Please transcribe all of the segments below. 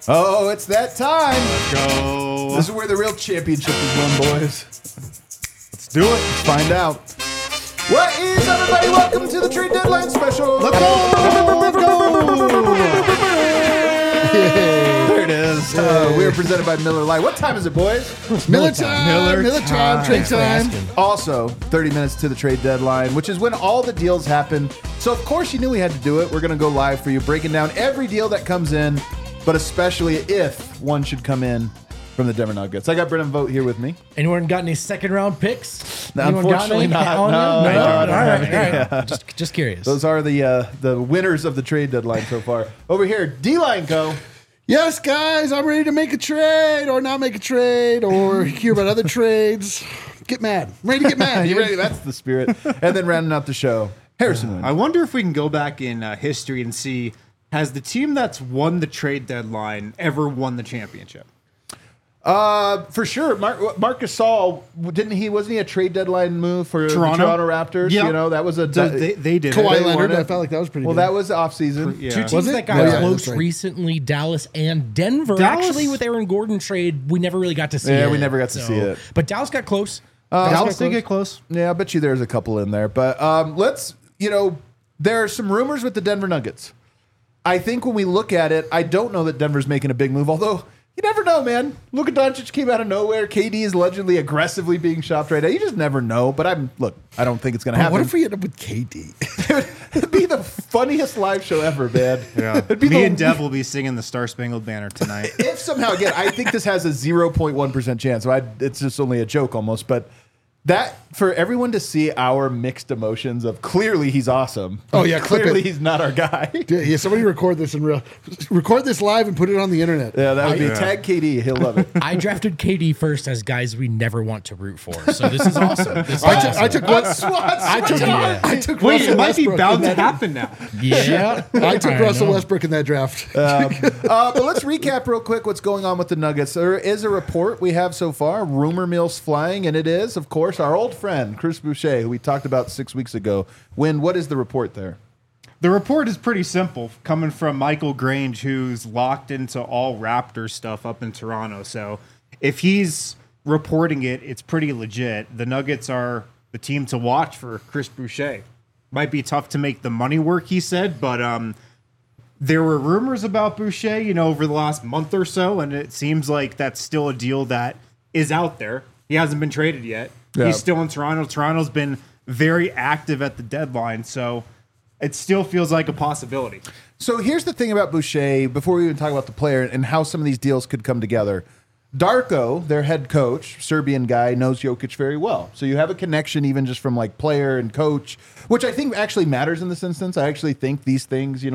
Oh, it's that time. Let's go. This is where the real championship is won, boys. Let's do it. Let's find out. What is everybody? Welcome to the trade deadline special. Let's go. Let's go. There it is. We are presented by Miller Lite. What time is it, boys? Miller time, trade time. Also, 30 minutes to the trade deadline, which is when all the deals happen. So, of course, you knew we had to do it. We're going to go live for you, breaking down every deal that comes in, but especially if one should come in from the Denver Nuggets. I got Brennan Vogt here with me. Anyone got any second round picks? No, Anyone unfortunately got any not. on No, you? no, I All don't right, have all right. Just curious. Those are the winners of the trade deadline so far. Over here, D-Line Co. Yes, guys, I'm ready to make a trade or not make a trade or hear about other trades. Get mad. I'm ready to get mad. You ready? That's the spirit. And then rounding out the show, Harrison Wind. I wonder if we can go back in history and see, has the team that's won the trade deadline ever won the championship? For sure. Marc Gasol, wasn't he a trade deadline move for Toronto? the Toronto Raptors? Yeah. You know, that was a They did Kawhi it. Leonard, won it. I felt like that was pretty well, good. that was off season. Yeah. Two teams Was it? that got Yeah, close that's right. recently, Dallas and Denver. Dallas- Actually, with Aaron Gordon trade, we never really got to see it. Yeah, we never got to see it. But Dallas got close. Dallas did get close. Yeah, I bet you there's a couple in there. But there are some rumors with the Denver Nuggets. I think when we look at it, I don't know that Denver's making a big move, although you never know, man. Luka Doncic came out of nowhere. KD is allegedly aggressively being shopped right now. You just never know. But I don't think it's going to happen. What if we end up with KD? It'd be the funniest live show ever, man. Yeah. It'd be Me the- and Dev will be singing the Star Spangled Banner tonight. If somehow, again, I think this has a 0.1% chance. So it's just only a joke almost. But that, for everyone to see our mixed emotions of clearly he's awesome. Oh, yeah, clip clearly it. he's not our guy. Yeah, somebody record this record this live and put it on the internet. Yeah, that would be tag KD. He'll love it. I drafted KD first as guys we never want to root for. So this is awesome. This is I took Wait, Russell it might be Westbrook bound in to that- happen now. Yeah. I took I Russell know. Westbrook in that draft. But let's recap real quick what's going on with the Nuggets. There is a report we have so far, rumor mill's flying, and it is, of course, our old friend, Chris Boucher, who we talked about 6 weeks ago. Win, what is the report there? The report is pretty simple, coming from Michael Grange, who's locked into all Raptors stuff up in Toronto. So if he's reporting it, it's pretty legit. The Nuggets are the team to watch for Chris Boucher. Might be tough to make the money work, he said, but there were rumors about Boucher, over the last month or so, and it seems like that's still a deal that is out there. He hasn't been traded yet. Yeah. He's still in Toronto. Toronto's been very active at the deadline, so it still feels like a possibility. So here's the thing about Boucher, before we even talk about the player and how some of these deals could come together. Darko, their head coach, Serbian guy, knows Jokic very well. So you have a connection even just from like player and coach, which I think actually matters in this instance. I actually think these things,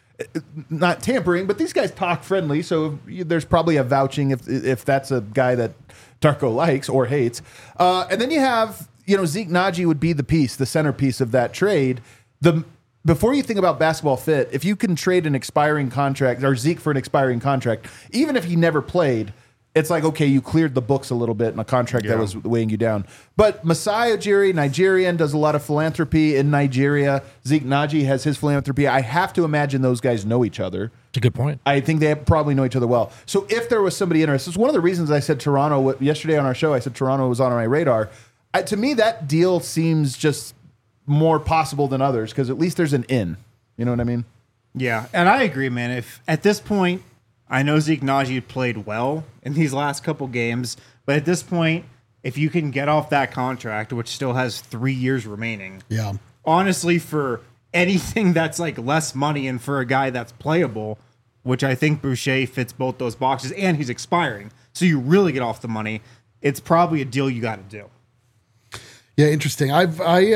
not tampering, but these guys talk friendly. So there's probably a vouching if that's a guy that Darko likes or hates. And then you have, Zeke Naji would be the centerpiece of that trade. Before you think about basketball fit, if you can trade an expiring contract or Zeke for an expiring contract, even if he never played, it's like, okay, you cleared the books a little bit in a contract that was weighing you down. But Masai Ujiri, Nigerian, does a lot of philanthropy in Nigeria. Zeke Naji has his philanthropy. I have to imagine those guys know each other. It's a good point. I think they probably know each other well. So if there was somebody interested, it's one of the reasons I said Toronto yesterday on our show. I said Toronto was on my radar. To me, that deal seems just more possible than others because at least there's an in. You know what I mean? Yeah, and I agree, man. If at this point, I know Zeke Naji played well in these last couple games, but at this point, if you can get off that contract, which still has 3 years remaining, Yeah. honestly, for anything that's like less money and for a guy that's playable, which I think Boucher fits both those boxes, and he's expiring, so you really get off the money, it's probably a deal you got to do. Yeah, interesting. I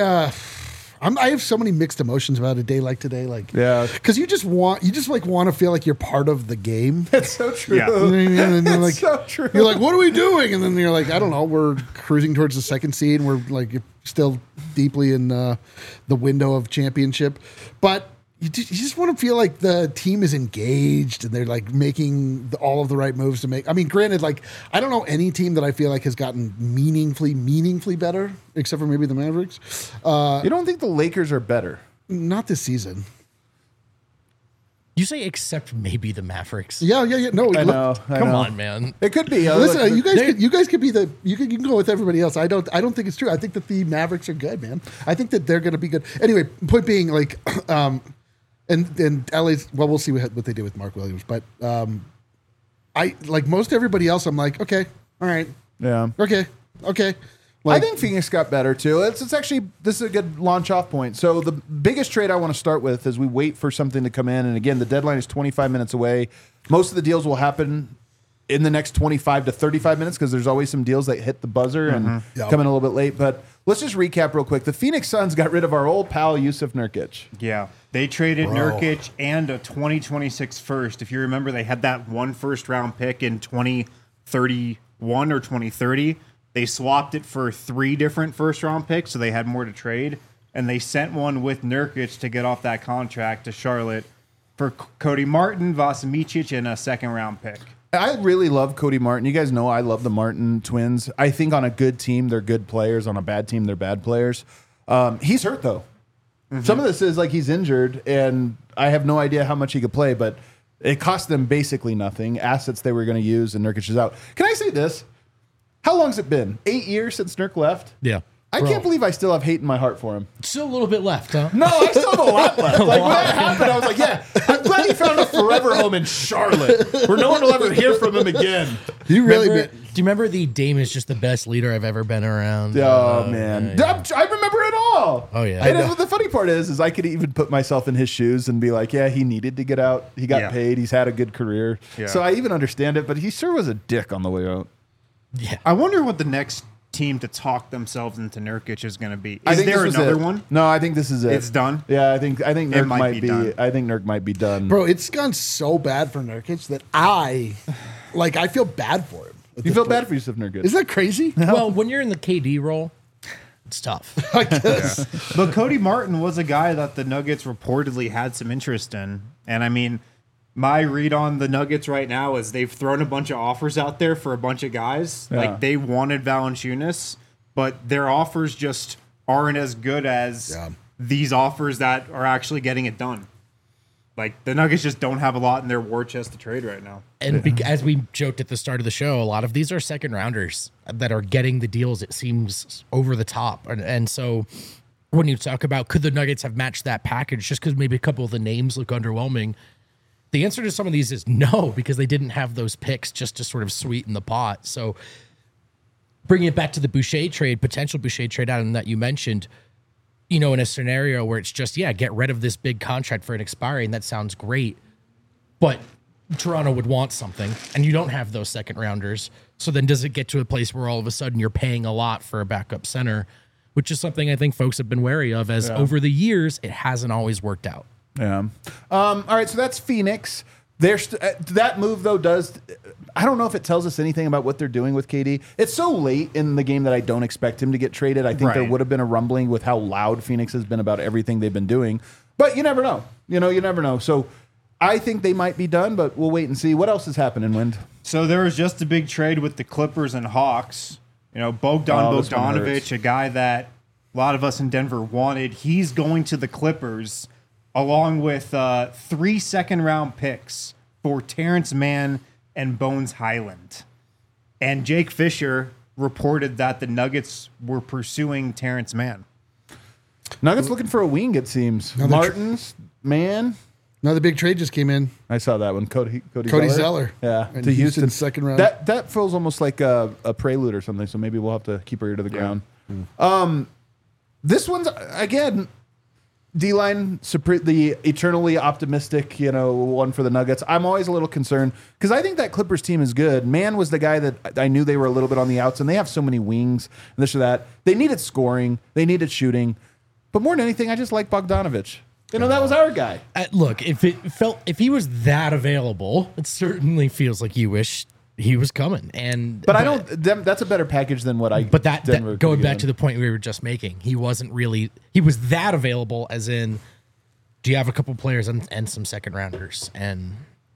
have so many mixed emotions about a day like today. Yeah. Because you just want to feel like you're part of the game. That's so true. Yeah. You know what I mean? And then, It's so true. You're like, what are we doing? And then you're like, I don't know. We're cruising towards the second seed. And we're like still deeply in the window of championship. But you just want to feel like the team is engaged and they're like making all of the right moves to make. I mean, granted, like I don't know any team that I feel like has gotten meaningfully better, except for maybe the Mavericks. You don't think the Lakers are better? Not this season. You say except maybe the Mavericks. Yeah. No, I know. Come on, man. It could be. Listen, you guys could be you can go with everybody else. I don't think it's true. I think that the Mavericks are good, man. I think that they're going to be good. Anyway, point being, like, and LA's, well, we'll see what they do with Mark Williams, but I like most everybody else. I'm like, okay, all right, Yeah. okay. I think Phoenix got better too. It's actually, this is a good launch off point. So the biggest trade I want to start with is we wait for something to come in. And again, the deadline is 25 minutes away. Most of the deals will happen in the next 25 to 35 minutes because there's always some deals that hit the buzzer and come in a little bit late. But let's just recap real quick. The Phoenix Suns got rid of our old pal, Yusuf Nurkic. Yeah. They traded Nurkic and a 2026 first. If you remember, they had that one first round pick in 2031 or 2030. They swapped it for 3 different first round picks, so they had more to trade. And they sent one with Nurkic to get off that contract to Charlotte for Cody Martin, Vas Micic, and a second round pick. I really love Cody Martin. You guys know I love the Martin twins. I think on a good team, they're good players. On a bad team, they're bad players. He's hurt, though. Some of this is like he's injured, and I have no idea how much he could play, but it cost them basically nothing. Assets they were going to use, and Nurkic is out. Can I say this? How long's it been? 8 years since Nurk left? Yeah. I can't believe I still have hate in my heart for him. Still a little bit left, huh? No, I still have a lot left. Like, when that happened, I was like, yeah, I'm glad he found a forever home in Charlotte where no one will ever hear from him again. You really Do you remember the Dame is just the best leader I've ever been around? Oh, man. Yeah. I remember it all. Oh, yeah. And the funny part is I could even put myself in his shoes and be like, yeah, he needed to get out. He got paid. He's had a good career. Yeah. So I even understand it, but he sure was a dick on the way out. Yeah. I wonder what the next team to talk themselves into Nurkic is going to be. I Is think there this was another it. one? No, I think this is it. It's done? Yeah, I think Nurk might be done. I think Nurk might be done. Bro, it's gone so bad for Nurkic that I feel bad for him. You feel bad for Yusuf Nurkic. Isn't that crazy? Well, when you're in the KD role, it's tough. I guess. But Cody Martin was a guy that the Nuggets reportedly had some interest in. And I mean, my read on the Nuggets right now is they've thrown a bunch of offers out there for a bunch of guys. Yeah. Like they wanted Valanciunas, but their offers just aren't as good as these offers that are actually getting it done. Like the Nuggets just don't have a lot in their war chest to trade right now. And as we joked at the start of the show, a lot of these are second rounders that are getting the deals, it seems, over the top. And so when you talk about could the Nuggets have matched that package just because maybe a couple of the names look underwhelming, the answer to some of these is no, because they didn't have those picks just to sort of sweeten the pot. So bringing it back to the Boucher trade, potential Boucher trade out that you mentioned, you know, in a scenario where it's just, get rid of this big contract for an expiry, and that sounds great. But Toronto would want something, and you don't have those second rounders. So then does it get to a place where all of a sudden you're paying a lot for a backup center, which is something I think folks have been wary of as over the years, it hasn't always worked out. Yeah. All right, so that's Phoenix. That move, though, I don't know if it tells us anything about what they're doing with KD. It's so late in the game that I don't expect him to get traded. I think there would have been a rumbling with how loud Phoenix has been about everything they've been doing. But you never know. You never know. So I think they might be done, but we'll wait and see. What else is happening, Wind? So there was just a big trade with the Clippers and Hawks. You know, Bogdanovich, a guy that a lot of us in Denver wanted. He's going to the Clippers along with 3 second-round picks for Terrence Mann and Bones Highland. And Jake Fisher reported that the Nuggets were pursuing Terrence Mann. Nuggets looking for a wing, it seems. Martins, Mann. Another big trade just came in. I saw that one. Cody Zeller. Yeah, And to Houston. second round. That feels almost like a prelude or something, so maybe we'll have to keep our ear to the ground. This one's, again, D-line, the eternally optimistic, one for the Nuggets. I'm always a little concerned because I think that Clippers team is good. Mann was the guy that I knew they were a little bit on the outs, and they have so many wings and this or that. They needed scoring. They needed shooting. But more than anything, I just like Bogdanovich. That was our guy. Look, if he was that available, it certainly feels like you wish he was coming. But I don't. That's a better package than what I. But that going back to the point we were just making, he wasn't really. He was that available, as in, do you have a couple players and some second rounders? And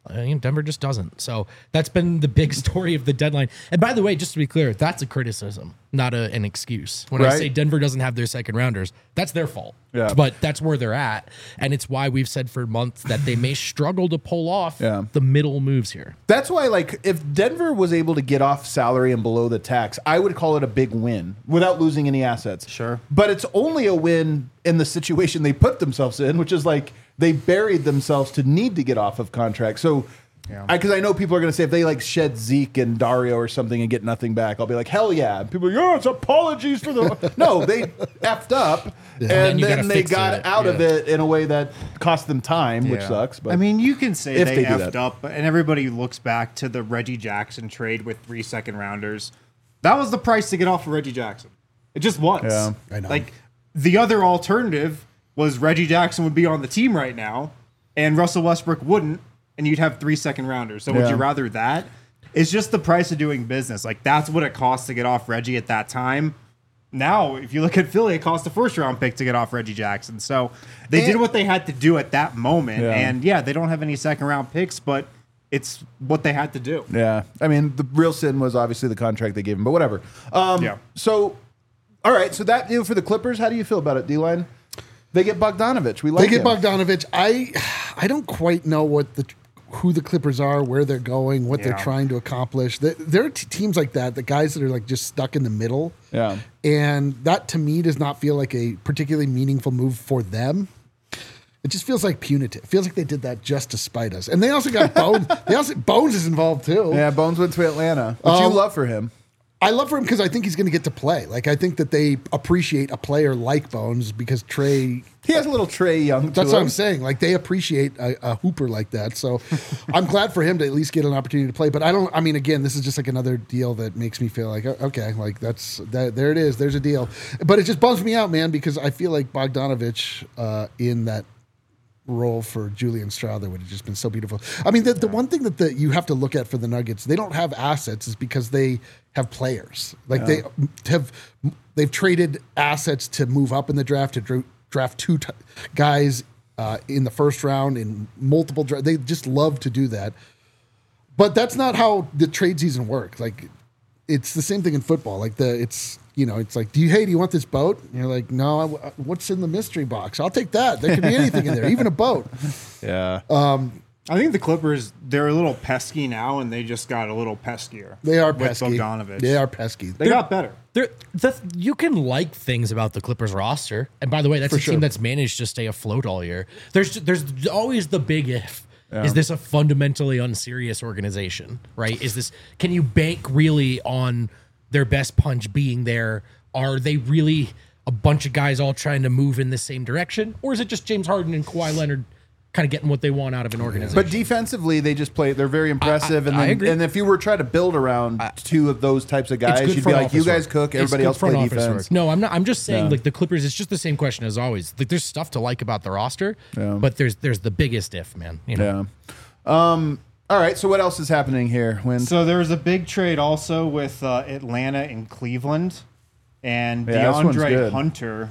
Denver just doesn't. So that's been the big story of the deadline. And by the way, just to be clear, that's a criticism, not an excuse. When I Right. say Denver doesn't have their second rounders, that's their fault. Yeah. But that's where they're at. And it's why we've said for months that they may struggle to pull off Yeah. the middle moves here. That's why, like, if Denver was able to get off salary and below the tax, I would call it a big win without losing any assets. Sure. But it's only a win in the situation they put themselves in, which is like they buried themselves to need to get off of contract. So, Yeah. because I know people are going to say if they like shed Zeke and Dario or something and get nothing back, I'll be like, hell yeah. And people are like, oh, it's apologies for the. No, they effed up then and you then gotta they fix got it. out of Yeah. it in a way that cost them time, which Yeah. sucks. But I mean, you can say if they they do effed that. up, and everybody looks back to the Reggie Jackson trade with 3 second rounders. That was the price to get off of Reggie Jackson. It just was. Yeah. I know. Like the other alternative was Reggie Jackson would be on the team right now, and Russell Westbrook wouldn't, and you'd have 3 second rounders. So would Yeah. you rather that? It's just the price of doing business. Like that's what it costs to get off Reggie at that time. Now, if you look at Philly, it cost a first round pick to get off Reggie Jackson. So they did And- what they had to do at that moment. Yeah. And yeah, they don't have any second round picks, but it's what they had to do. Yeah, I mean, the real sin was obviously the contract they gave him, but whatever. Yeah. So, all right. So that deal for the Clippers, how do you feel about it, D-line? They get Bogdanovich. We like They get him. Bogdanovich. I don't quite know who the Clippers are, where they're going, what they're Yeah. trying to accomplish. There are teams like that, the guys that are like just stuck in the middle. Yeah. And that to me does not feel like a particularly meaningful move for them. It just feels like punitive. It feels like they did that just to spite us. And they also got Bones. Bones is involved too. Yeah, Bones went to Atlanta, which you love for him. I love for him because I think he's going to get to play. Like I think that they appreciate a player like Bones because Trey. He has a little Trey Young to That's him. what I'm saying. Like they appreciate a hooper like that. So I'm glad for him to at least get an opportunity to play. But I mean, again, this is just like another deal that makes me feel like, okay, like there it is. There's a deal. But it just bums me out, man, because I feel like Bogdanovich in that role for Julian Strawther would have just been so beautiful. I mean, the one thing that you have to look at for the Nuggets, they don't have assets is because they have players. Like they've traded assets to move up in the draft, to draft two guys in the first round in multiple drafts. They just love to do that. But that's not how the trade season works. Like it's the same thing in football. Like it's like, do you want this boat? And you're like, no, what's in the mystery box? I'll take that. There could be anything in there, even a boat. Yeah. I think the Clippers, they're a little pesky now, and they just got a little peskier. They are with pesky. Bogdanovich. They are pesky. They got better. You can like things about the Clippers roster, and by the way, that's For a sure. team that's managed to stay afloat all year. There's always the big if. Is this a fundamentally unserious organization? Right? Can you bank really on their best punch being there? Are they really a bunch of guys all trying to move in the same direction, or is it just James Harden and Kawhi Leonard kind of getting what they want out of an organization? But defensively, they just play. They're very impressive. I agree. And if you were trying to build around two of those types of It's guys, good you'd be front like, you office guys work. cook, It's everybody good else play front office defense. work. No, I'm not. I'm just saying, Yeah. like the Clippers. It's just the same question as always. Like there's stuff to like about the roster, but there's the biggest if, man. You know? Yeah. All right. So what else is happening here? So there was a big trade also with Atlanta and Cleveland, and Yeah, this one's DeAndre good. Hunter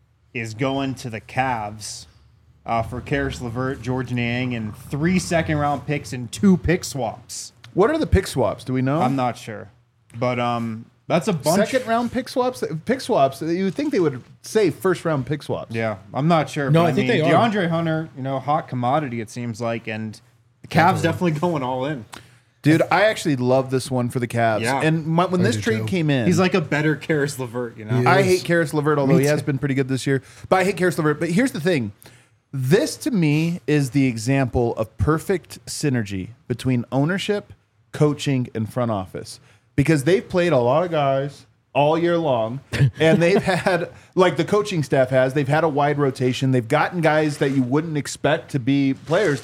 is going to the Cavs for Karis LeVert, George Niang, and 3 second round picks and 2 pick swaps. What are the pick swaps? Do we know? I'm not sure, but that's a bunch. Second round pick swaps. Pick swaps. You would think they would say first round pick swaps. Yeah, I'm not sure. No, but I think mean, they are. DeAndre Hunter, hot commodity it seems like, and the Cavs definitely going all in. Dude, I actually love this one for the Cavs. Yeah. And when this do trade too. came in, He's like a better Karis LeVert, you know. Yeah. I Yes. hate Karis LeVert, although Me he has too. been pretty good this year. But I hate Karis LeVert. But here's the thing. This, to me, is the example of perfect synergy between ownership, coaching, and front office. Because they've played a lot of guys all year long, and they've had, like the coaching staff has, they've had a wide rotation. They've gotten guys that you wouldn't expect to be players,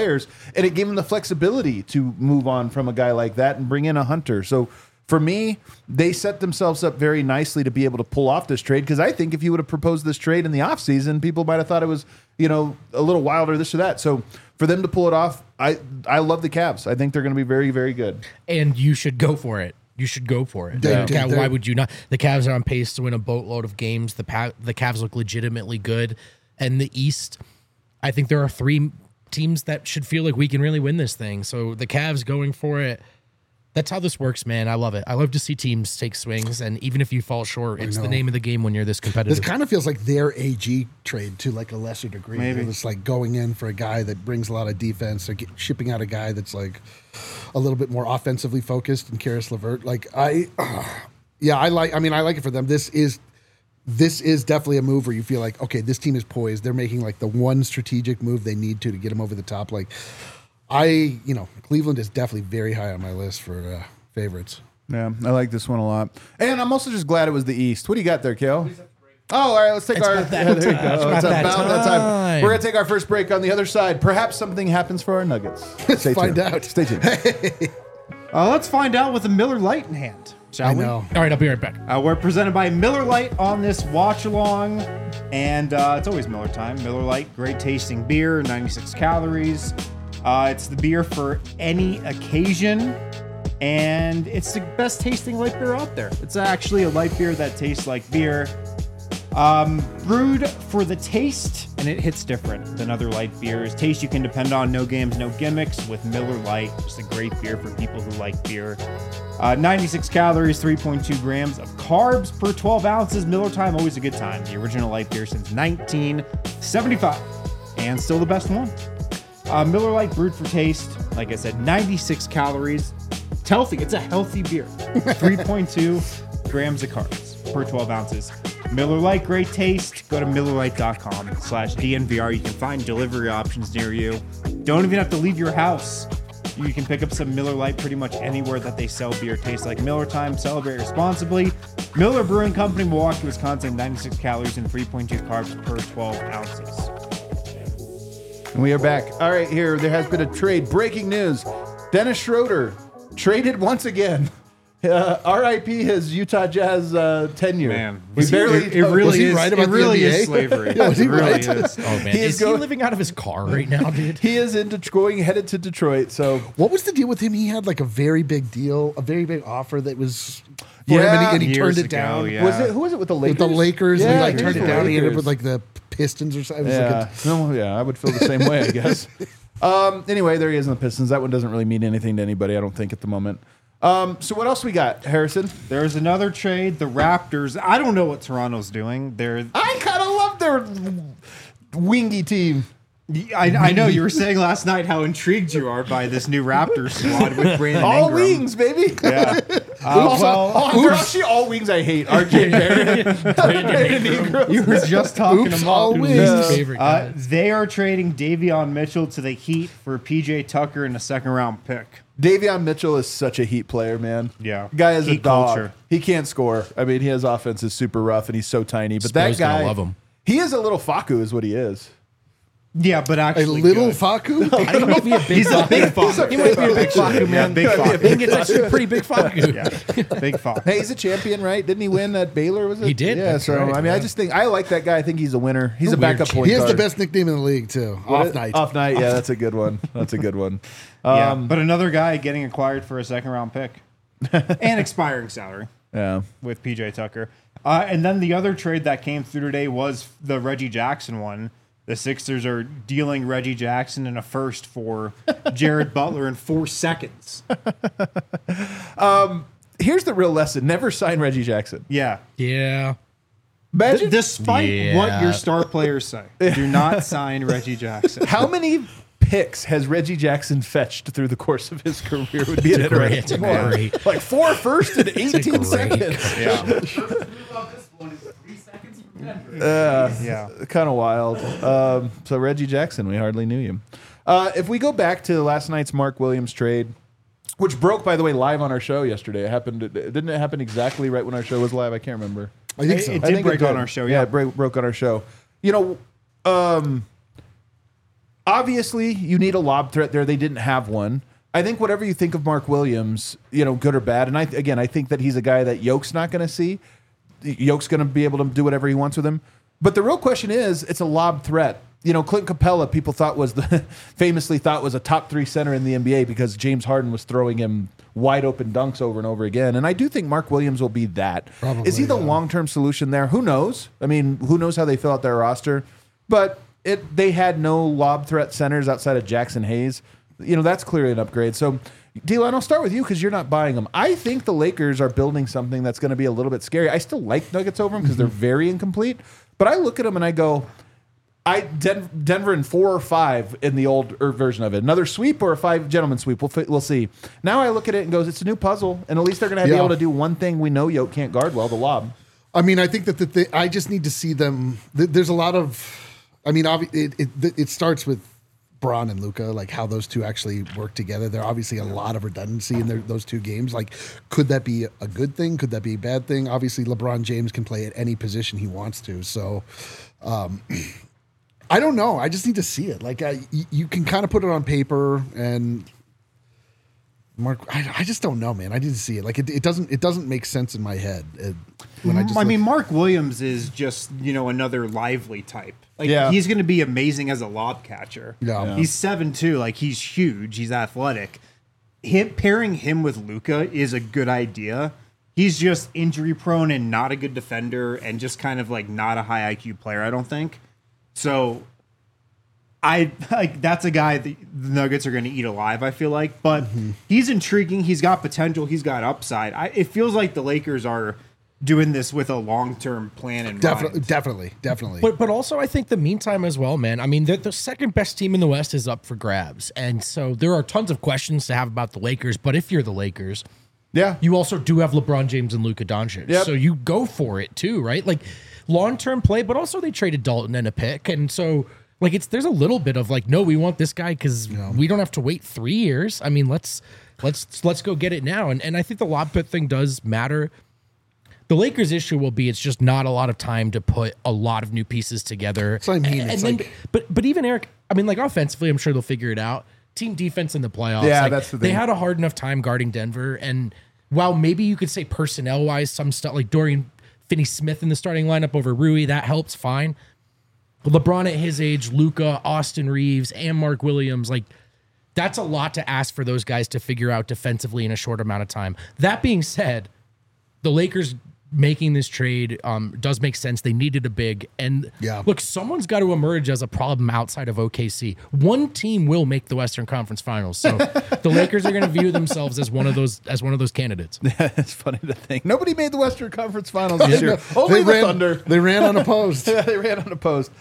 and it gave them the flexibility to move on from a guy like that and bring in a Hunter. So for me, they set themselves up very nicely to be able to pull off this trade, because I think if you would have proposed this trade in the offseason, people might have thought it was, a little wilder, this or that. So for them to pull it off, I love the Cavs. I think they're going to be very, very good. And you should go for it. You should go for it. They- Like, they- why would you not? The Cavs are on pace to win a boatload of games. The Cavs look legitimately good. And the East, I think there are teams that should feel like we can really win this thing. So the Cavs going for it. That's how this works, man. I love it. I love to see teams take swings, and even if you fall short, it's the name of the game when you're this competitive. This kind of feels like their AG trade to like a lesser degree. Maybe. It's like going in for a guy that brings a lot of defense, or shipping out a guy that's like a little bit more offensively focused, and Karis LeVert. Like I like it for them. This is definitely a move where you feel like, okay, this team is poised. They're making like the one strategic move they need to get them over the top. Like Cleveland is definitely very high on my list for favorites. Yeah, I like this one a lot. And I'm also just glad it was the East. What do you got there, Kale? Oh, all right, let's take It's our... about that there you time. go. It's about It's that about that time. time. We're going to take our first break on the other side. Perhaps something happens for our Nuggets. Stay find tuned. out. Stay tuned. Let's find out with a Miller Lite in hand, shall I we? know. All right, I'll be right back. We're presented by Miller Lite on this watch along, and it's always Miller time. Miller Lite, great tasting beer, 96 calories. It's the beer for any occasion, and it's the best tasting light beer out there. It's actually a light beer that tastes like beer. Brewed for the taste, and it hits different than other light beers. Taste you can depend on, no games, no gimmicks with Miller Lite. Just a great beer for people who like beer. 96 calories, 3.2 grams of carbs per 12 ounces. Miller Time, always a good time. The original light beer since 1975, and still the best one. Miller Lite brewed for taste. Like I said, 96 calories. It's healthy. It's a healthy beer. 3.2 grams of carbs per 12 ounces. Miller Lite, great taste. Go to MillerLite.com/DNVR. You can find delivery options near you. Don't even have to leave your house. You can pick up some Miller Lite pretty much anywhere that they sell beer. Tastes like Miller Time. Celebrate responsibly. Miller Brewing Company, Milwaukee, Wisconsin. 96 calories and 3.2 carbs per 12 ounces. And we are back. All right, here, there has been a trade. Breaking news. Dennis Schroeder traded once again. RIP his Utah Jazz tenure. Man, we barely. it really Was he is. right It about the really NBA? is slavery. Yeah, was he It really right? is. Oh man, He is is he going- living out of his car right now, dude? He is headed to Detroit. So What was the deal with him? He had like a very big deal, a very big offer that was for him, and he Years turned it ago, down. yeah. was it? Who was it with the Lakers? With the Lakers, and he like it turned was it the down. He ended Lakers. up with like the Pistons or something. It was Yeah, no, yeah, I would feel the same way, I guess. Anyway, there he is in the Pistons. That one doesn't really mean anything to anybody, I don't think, at the moment. So what else we got, Harrison? There's another trade. The Raptors. I don't know what Toronto's doing. I kind of love their wingy team. I know you were saying last night how intrigued you are by this new Raptors squad with Brandon All Ingram. wings, baby. Yeah. They're actually all wings I hate. RJ Barrett, Brandon Ingram. You were just talking Oops, about all His wings. favorite guy. they are trading Davion Mitchell to the Heat for PJ Tucker and a second-round pick. Davion Mitchell is such a Heat player, man. Yeah. Guy is a Heat dog. culture. He can't score. I mean, his offense is super rough, and he's so tiny. But Spurs that gonna guy, love him. he is a little Faku, is what he is. Yeah, but A actually little good. Faku. I think he might be a big. He's a big fuck. He might be a big Faku, Yeah, man. big I fuck. think it's actually a pretty big Faku. Yeah, big fuck. Hey, he's a champion, right? Didn't he win at Baylor? Was it? He did, Yeah. that's So right, I mean, yeah. I just think I like that guy. I think he's a winner. He's a Weird backup kid. point He has guard. the best nickname in the league too. Off night. Off night. Yeah, that's a good one. That's a good one. Yeah, but another guy getting acquired for a second-round pick and expiring salary Yeah. with PJ Tucker. And then the other trade that came through today was the Reggie Jackson one. The Sixers are dealing Reggie Jackson in a first for Jared Butler in 4 seconds. Here's the real lesson: never sign Reggie Jackson. Yeah. Yeah. Imagine Despite what Yeah. your star players say, do not sign Reggie Jackson. how many picks has Reggie Jackson fetched through the course of his career? Would be an Great. interesting It's one. great. Like 4 firsts in 18 great seconds. Yeah. Yeah. Kind of wild. So Reggie Jackson, we hardly knew you. If we go back to last night's Mark Williams trade, which broke, by the way, live on our show yesterday. It happened. Didn't it happen exactly right when our show was live? I can't remember. I think so. It I did think break on did. our show, Yeah, yeah. it broke on our show. You know, obviously you need a lob threat there. They didn't have one. I think whatever you think of Mark Williams, you know, good or bad, and I think that he's a guy that Yoke's not going to see. Yoke's going to be able to do whatever he wants with him. But the real question is, it's a lob threat. You know, Clint Capella, people thought famously thought was a top 3 center in the NBA because James Harden was throwing him wide open dunks over and over again. And I do think Mark Williams will be that. Probably, is he the yeah. long-term solution there? Who knows? I mean, who knows how they fill out their roster? But they had no lob threat centers outside of Jackson Hayes. That's clearly an upgrade. So, D'Lo, I'll start with you because you're not buying them. I think the Lakers are building something that's going to be a little bit scary. I still like Nuggets over them because they're very incomplete. But I look at them and I go, Denver in 4 or 5 in the old version of it. Another sweep or a 5-gentleman sweep. We'll see. Now I look at it and goes, it's a new puzzle, and at least they're going to be able to do one thing we know Yoke can't guard well, the lob. I mean, I think that I just need to see them. There's a lot of. I mean, it starts with Bron and Luka, like how those two actually work together. There are obviously a lot of redundancy in those two games. Like, could that be a good thing? Could that be a bad thing? Obviously, LeBron James can play at any position he wants to. So, I don't know. I just need to see it. Like, you can kind of put it on paper, and Mark, I just don't know, man. I didn't see it. Like, it doesn't make sense in my head. Mark Williams is just another lively type. Like, he's going to be amazing as a lob catcher. Yeah. He's 7'2", like he's huge. He's athletic. Pairing him with Luka is a good idea. He's just injury prone and not a good defender, and just kind of like not a high IQ player, I don't think. So that's a guy the Nuggets are going to eat alive, I feel like. But he's intriguing. He's got potential. He's got upside. It feels like the Lakers are doing this with a long-term plan in mind. Definitely. But also, I think the meantime as well, man. I mean, the second best team in the West is up for grabs. And so there are tons of questions to have about the Lakers. But if you're the Lakers, you also do have LeBron James and Luka Doncic. Yep. So you go for it too, right? Like, long-term play, but also they traded Dalton and a pick. And so, like, there's a little bit of like, no, we want this guy because we don't have to wait 3 years. I mean, let's go get it now. And I think the lob pit thing does matter. The Lakers' issue will be it's just not a lot of time to put a lot of new pieces together. So I mean, but even Eric, I mean, like, offensively, I'm sure they'll figure it out. Team defense in the playoffs. Yeah, like, that's the thing. They had a hard enough time guarding Denver. And while maybe you could say personnel-wise, some stuff like Dorian Finney-Smith in the starting lineup over Rui, that helps, fine. But LeBron at his age, Luka, Austin Reeves, and Mark Williams, like, that's a lot to ask for those guys to figure out defensively in a short amount of time. That being said, the Lakers making this trade does make sense. They needed a big, and look, someone's got to emerge as a problem outside of OKC. One team will make the Western Conference Finals, so the Lakers are going to view themselves as one of those candidates. It's funny to think nobody made the Western Conference Finals this year. Only the Thunder. They ran unopposed. They ran unopposed.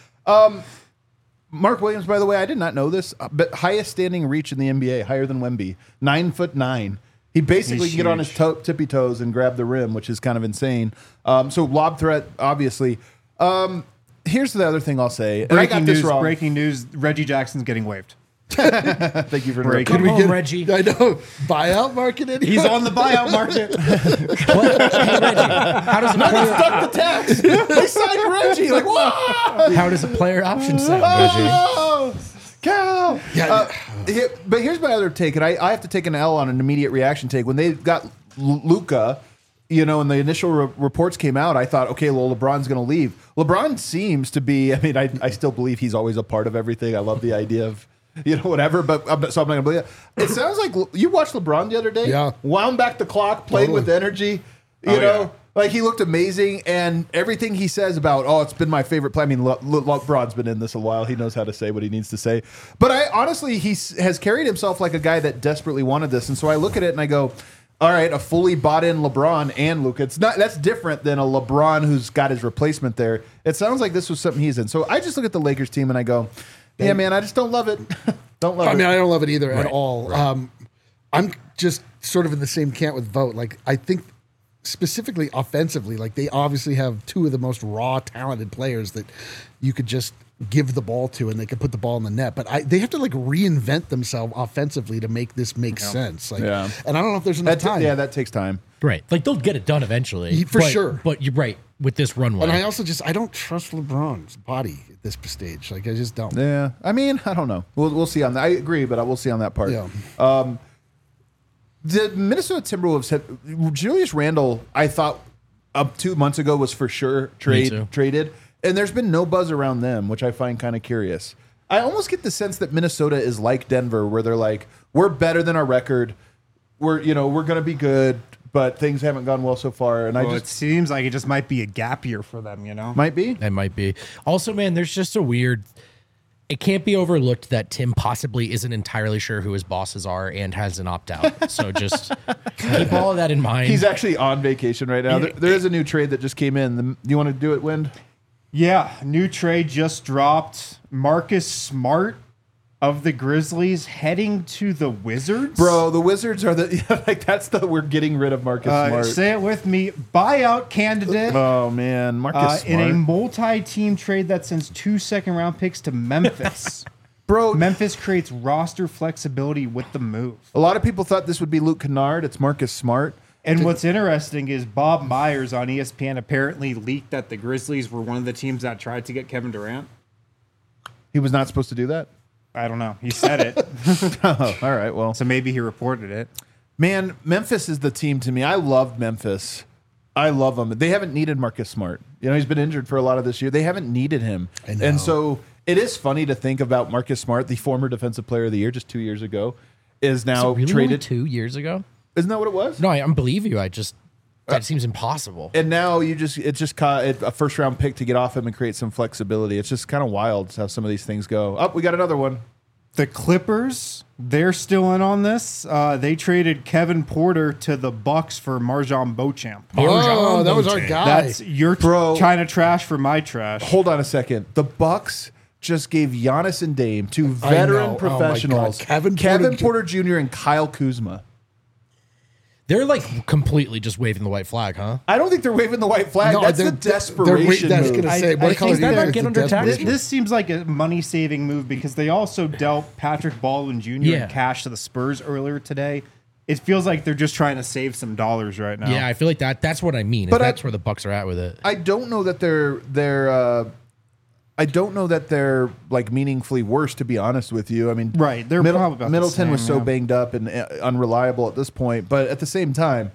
Mark Williams, by the way, I did not know this, but highest standing reach in the NBA, higher than Wemby, 9'9". He basically can get on his tippy toes and grab the rim, which is kind of insane. So lob threat, obviously. Here's the other thing I'll say. And I got this wrong. Breaking news, Reggie Jackson's getting waived. Thank you for Breaking. Come home, Reggie. I know. Buyout market. He's on the buyout market. Hey, Reggie, how does a player Stuck the tax. They signed Reggie. Like, whoa! How does a player option sound, Oh, cow. Yeah. But here's my other take, and I have to take an L on an immediate reaction take. When they got Luka, and the initial reports came out, I thought, okay, well, LeBron's going to leave. LeBron seems to be, I mean, I still believe he's always a part of everything. I love the idea of, whatever, but so I'm not going to believe it. It sounds like you watched LeBron the other day. Yeah. Wound back the clock, played with energy, you know. Like, he looked amazing, and everything he says about, it's been my favorite play. I mean, LeBron's been in this a while. He knows how to say what he needs to say. But honestly, he has carried himself like a guy that desperately wanted this. And so I look at it and I go, all right, a fully bought-in LeBron and Luka. That's different than a LeBron who's got his replacement there. It sounds like this was something he's in. So I just look at the Lakers team and I go, yeah, man, I just don't love it. Don't love it. I mean, I don't love it either at all. Right. I'm just sort of in the same camp with Vogt. Like, I think specifically offensively, like, they obviously have two of the most raw, talented players that you could just give the ball to and they could put the ball in the net. But they have to, like, reinvent themselves offensively to make this make sense. Like, and I don't know if there's enough time. Yeah, that takes time. Right. Like, they'll get it done eventually. For sure. But you're right with this runway. And I also I don't trust LeBron's body at this stage. Like, I just don't. Yeah. I mean, I don't know. We'll see on that. I agree, but I will see on that part. Yeah. The Minnesota Timberwolves had Julius Randle, I thought up 2 months ago was for sure traded. And there's been no buzz around them, which I find kind of curious. I almost get the sense that Minnesota is like Denver, where they're like, we're better than our record. We're going to be good, but things haven't gone well so far. And it seems like it just might be a gap year for them, Might be. It might be. Also, man, there's just a weird, it can't be overlooked that Tim possibly isn't entirely sure who his bosses are and has an opt out. So just keep all of that in mind. He's actually on vacation right now. There is a new trade that just came in. Do you want to do it, Wind? Yeah, new trade just dropped. Marcus Smart of the Grizzlies heading to the Wizards. Bro, the Wizards are we're getting rid of Marcus Smart. Say it with me. Buyout candidate. Oh man, Marcus Smart. In a multi-team trade that sends 2 second-round picks to Memphis. Bro, Memphis creates roster flexibility with the move. a lot of people thought this would be Luke Kennard. It's Marcus Smart. And what's interesting is Bob Myers on ESPN apparently leaked that the Grizzlies were one of the teams that tried to get Kevin Durant. He was not supposed to do that. I don't know. He said it. Oh, all right. Well, So maybe he reported it. man, Memphis is the team to me. I love Memphis. I love them. They haven't needed Marcus Smart. You know, he's been injured for a lot of this year. They haven't needed him. I know. And so it is funny to think about Marcus Smart, the former Defensive Player of the Year just 2 years ago, is now really traded. only 2 years ago? Isn't that what it was? No, I believe you. That seems impossible. And now it's just caught a first round pick to get off him and create some flexibility. It's just kind of wild how some of these things go. Oh, we got another one. The Clippers, they're still in on this. They traded Kevin Porter to the Bucks for Marjan Beauchamp. Oh, that was our guy. That's your Bro. China trash for my trash. Hold on a second. The Bucks just gave Giannis and Dame, two veteran know. Oh my professionals, God. Kevin Porter Jr. and Kyle Kuzma. They're like completely just waving the white flag, huh? I don't think they're waving the white flag. No, That's the they're- desperation that's move. gonna say, I what color think do you that think might get is the under tax. desperation? This seems like a money-saving move because they also dealt Patrick Baldwin Jr. Yeah. in cash to the Spurs earlier today. It feels like they're just trying to save some dollars right now. Yeah, I feel like that's what I mean. But That's where the Bucks are at with it. I don't know that I don't know that they're like meaningfully worse, to be honest with you. I mean, Right, they're probably about the Middleton was same, so yeah. banged up and unreliable at this point. But at the same time,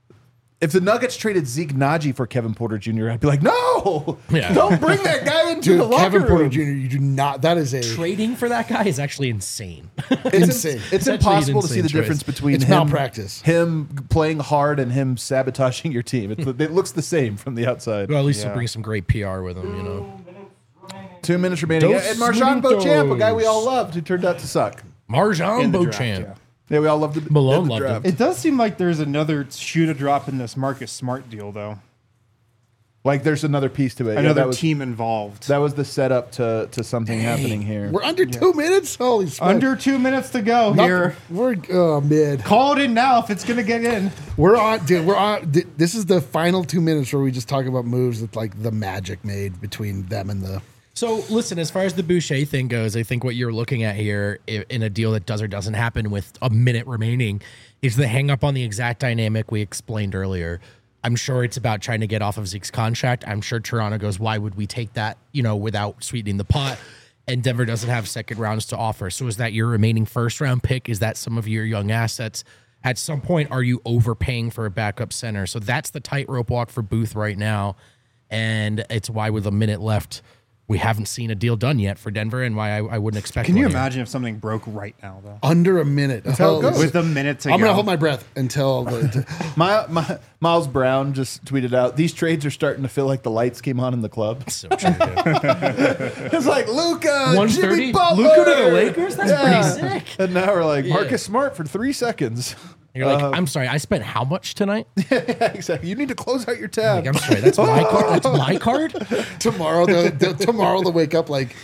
if the Nuggets traded Zeke Naji for Kevin Porter Jr., I'd be like, no, Yeah. don't bring that guy into the Dude, locker Kevin Porter room. Jr., you do not. That is a Trading for that guy is actually insane. insane. It's It's actually impossible an to see the insane difference choice. between It's him, malpractice. him playing hard and him sabotaging your team. It looks the same from the outside. Well, at least Yeah. he'll bring some great PR with him, you know. 2 minutes remaining. Dos And Marjan Beauchamp, a guy we minutos. all loved, who turned out to suck. Marjan In the draft, Beauchamp. yeah. Yeah, we all loved the Malone the loved draft. It does seem like there's another shoe to drop in this Marcus Smart deal, though. Like there's another piece to it. Yeah, Another that was, team involved. That was the setup to something happening here. We're under 2 minutes. Holy smokes! Under 2 minutes to go here. We're mid. Call it in now if it's going to get in. We're on, dude. We're on. This is the final 2 minutes where we just talk about moves that like the magic made between them and the. So, listen, as far as the Boucher thing goes, I think what you're looking at here in a deal that does or doesn't happen with a minute remaining is the hang up on the exact dynamic we explained earlier. I'm sure it's about trying to get off of Zeke's contract. I'm sure Toronto goes, why would we take that, without sweetening the pot? And Denver doesn't have second rounds to offer. So is that your remaining first round pick? Is that some of your young assets? At some point, are you overpaying for a backup center? So that's the tightrope walk for Booth right now. And it's why with a minute left, we haven't seen a deal done yet for Denver, and why I wouldn't expect. Can you one here. imagine if something broke right now, though? Under a minute. That's how it goes. With a minute to I'm go. gonna hold my breath until the, Miles Brown just tweeted out, these trades are starting to feel like the lights came on in the club. So true, dude. It's like Luka, 130? Jimmy Butler. Luka to the Lakers? That's pretty sick. And now we're like, Marcus Smart for 3 seconds. You're like, I'm sorry, I spent how much tonight? Yeah, exactly. You need to close out your tab. Like, I'm sorry, that's my card. That's my card. tomorrow. Tomorrow they'll wake up like.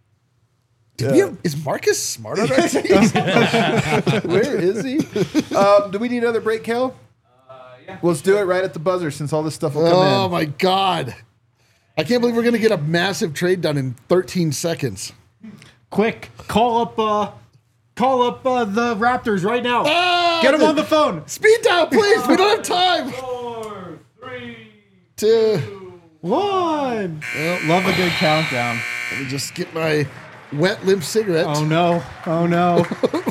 Is Marcus Smart on our team? Where is he? Do we need another break, Kel? Yeah. Let's do it right at the buzzer since all this stuff will come Oh in. my god! I can't believe we're gonna get a massive trade done in 13 seconds. Quick, call up the Raptors right now. Ah, Get them on the phone. Speed dial, please. We don't have time. 4, 3, 2. 1. Love a good countdown. Let me just get my wet limp cigarette. Oh no. Oh no.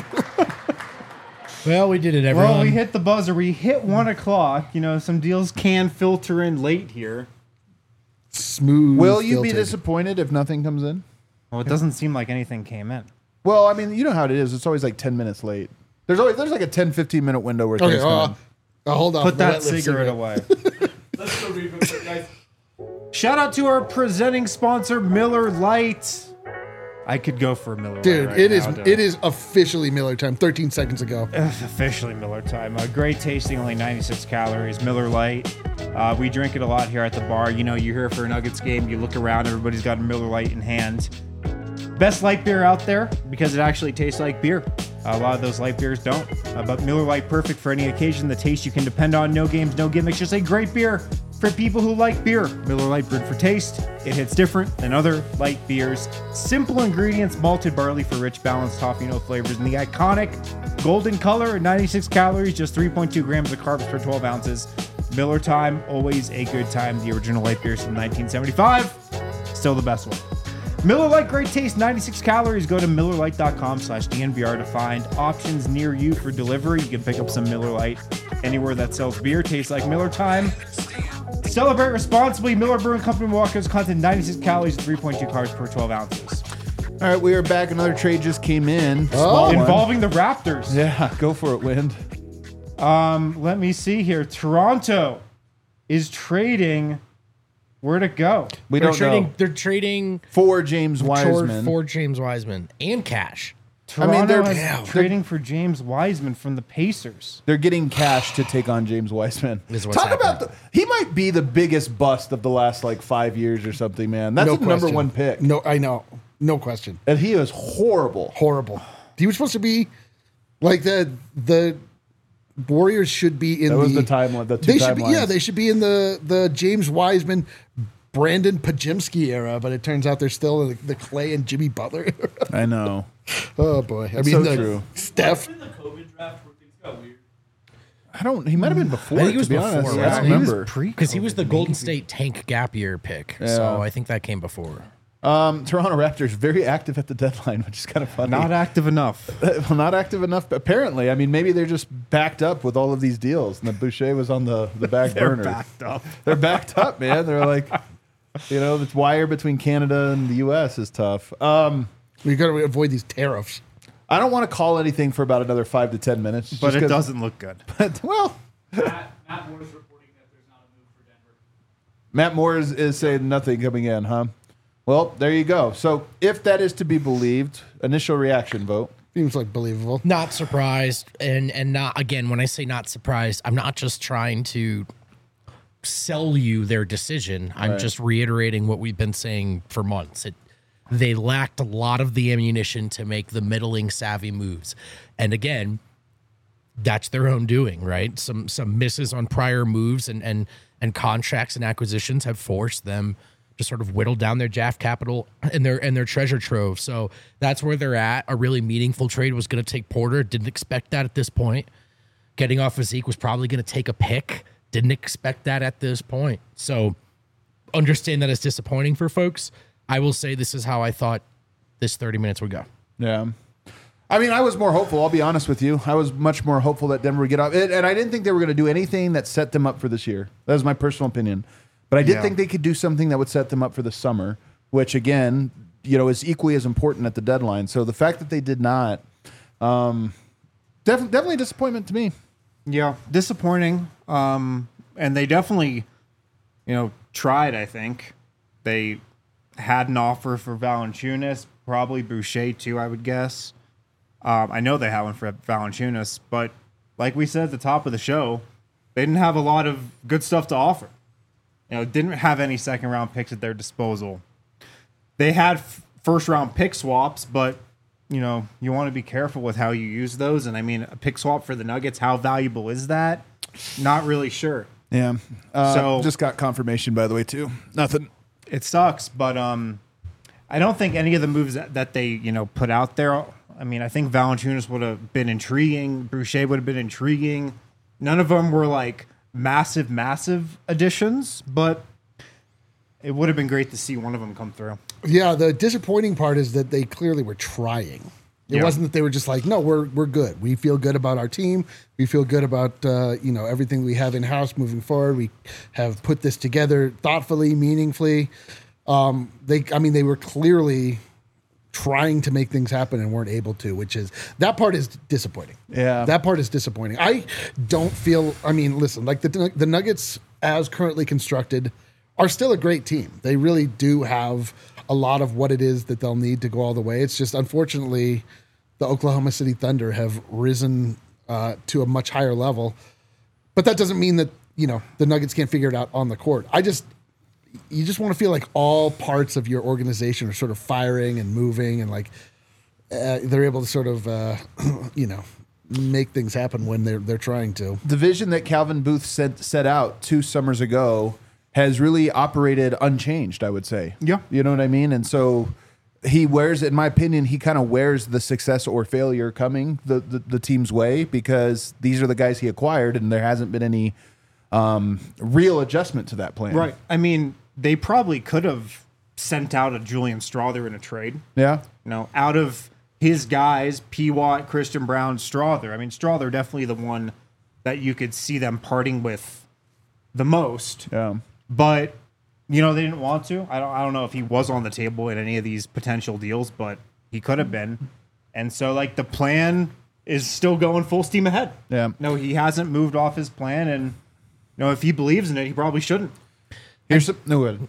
Well, we did it, everyone. Well, we hit the buzzer. We hit 1 o'clock. Some deals can filter in late here. Smooth. Will you be filtered. disappointed if nothing comes in? Well, it doesn't seem like anything came in. Well, I mean, you know how it is. It's always like 10 minutes late. There's like a 10, 15 minute window where Okay, things come in. hold on. Put My that wet lip cigarette away. let's go read real quick, guys. Shout out to our presenting sponsor, Miller Lite. I could go for a Miller Lite Dude, right it now, is officially Miller time. 13 seconds ago. It's officially Miller time. Great tasting, only 96 calories. Miller Lite. We drink it a lot here at the bar. You know, you're here for a Nuggets game. You look around, everybody's got a Miller Lite in hand. Best light beer out there because it actually tastes like beer. A lot of those light beers don't. But Miller Lite, perfect for any occasion. The taste you can depend on. No games, no gimmicks. Just a great beer for people who like beer. Miller Lite brewed for taste. It hits different than other light beers. Simple ingredients, malted barley for rich, balanced toffee note flavors, and the iconic golden color, 96 calories, just 3.2 grams of carbs per 12 ounces. Miller time, always a good time. The original light beers from 1975, still the best one. Miller Lite, great taste, 96 calories. Go to MillerLite.com/DNVR to find options near you for delivery. You can pick up some Miller Lite anywhere that sells beer. Tastes like Miller time. Celebrate responsibly. Miller Brewing Company, Milwaukee, Wisconsin, 96 calories, 3.2 carbs per 12 ounces. All right, we are back. Another trade just came in. Small one. Involving the Raptors. Yeah, go for it, Wind. Let me see here. Toronto is trading. Where'd it go? We They're don't trading. know. They're trading For James Wiseman. for James Wiseman and cash. Toronto they're- is trading for James Wiseman from the Pacers. They're getting cash to take on James Wiseman. Is what's Talk about happening. he might be the biggest bust of the last like 5 years or something, man. That's No the number question. one pick. No, I know. No question. And he is horrible. Horrible. He was supposed to be like the Warriors should be in That was the timeline. The two they should be, timelines. yeah, they should be in the James Wiseman, Brandon Pajimski era, but it turns out they're still in the Clay and Jimmy Butler era. I know. Oh boy. I so mean, true. Steph. In the COVID draft where things got weird. I don't. He might have been before. I think it was to be before, honest. right? I don't He remember. Because he was the Golden State tank gap year pick. So I think that came before. Toronto Raptors very active at the deadline, which is kind of funny. Not active enough. well, not active enough. Apparently, I mean, maybe they're just backed up with all of these deals, and the Boucher was on the back They're burner. backed up. They're backed up, man. They're like, the wire between Canada and the U.S. is tough. We got to avoid these tariffs. I don't want to call anything for about another 5 to 10 minutes, But just it 'cause- doesn't look good. well, Matt Moore is reporting that there's not a move for Denver. Matt Moore is saying nothing coming in, huh? Well, there you go. So if that is to be believed, initial reaction vote. Seems like believable. Not surprised, and not again. When I say not surprised, I'm not just trying to sell you their decision. I'm just reiterating what we've been saying for months. They lacked a lot of the ammunition to make the middling savvy moves, and again, that's their own doing, right? Some misses on prior moves and contracts and acquisitions have forced them to sort of whittle down their draft capital and their treasure trove. So that's where they're at. A really meaningful trade was going to take Porter. Didn't expect that at this point. Getting off of Zeke was probably going to take a pick. Didn't expect that at this point. So understand that it's disappointing for folks. I will say this is how I thought this 30 minutes would go. Yeah. I mean, I was more hopeful. I'll be honest with you. I was much more hopeful that Denver would get off. And I didn't think they were going to do anything that set them up for this year. That was my personal opinion. But I did Yeah. think they could do something that would set them up for the summer, which, again, is equally as important at the deadline. So the fact that they did not, definitely a disappointment to me. Yeah, disappointing. And they definitely, tried, I think. They had an offer for Valanciunas, probably Boucher too, I would guess. I know they had one for Valanciunas, but like we said at the top of the show, they didn't have a lot of good stuff to offer. Didn't have any second round picks at their disposal. They had first round pick swaps, but you want to be careful with how you use those. And I mean, a pick swap for the Nuggets, how valuable is that? Not really sure. Yeah. So- just got confirmation, by the way, too. Nothing. It sucks, but I don't think any of the moves that they put out there. I mean, I think Valanciunas would have been intriguing. Boucher would have been intriguing. None of them were like massive additions, but it would have been great to see one of them come through. Yeah, the disappointing part is that they clearly were trying. It Yeah. wasn't that they were just like, no, we're good. We feel good about our team. We feel good about everything we have in house moving forward. We have put this together thoughtfully, meaningfully. They were clearly trying to make things happen and weren't able to, that part is disappointing. Yeah. That part is disappointing. I don't feel, listen, like the Nuggets as currently constructed are still a great team. They really do have a lot of what it is that they'll need to go all the way. It's just unfortunately the Oklahoma City Thunder have risen to a much higher level, but that doesn't mean that the Nuggets can't figure it out on the court. You just want to feel like all parts of your organization are sort of firing and moving, and like they're able to sort of make things happen when they're trying to. The vision that Calvin Booth set out 2 summers ago has really operated unchanged, I would say. Yeah. You know what I mean? And so he wears, in my opinion, he kind of wears the success or failure coming the team's way, because these are the guys he acquired, and there hasn't been any real adjustment to that plan. Right. I mean, they probably could have sent out a Julian Strawther in a trade. Yeah. Out of his guys, P. Watt, Christian Brown, Strawther. I mean, Strawther definitely the one that you could see them parting with the most. Yeah. But they didn't want to. I don't know if he was on the table in any of these potential deals, but he could have been. And so like the plan is still going full steam ahead. Yeah. No, he hasn't moved off his plan, and if he believes in it, he probably shouldn't. Here's some. No, go ahead.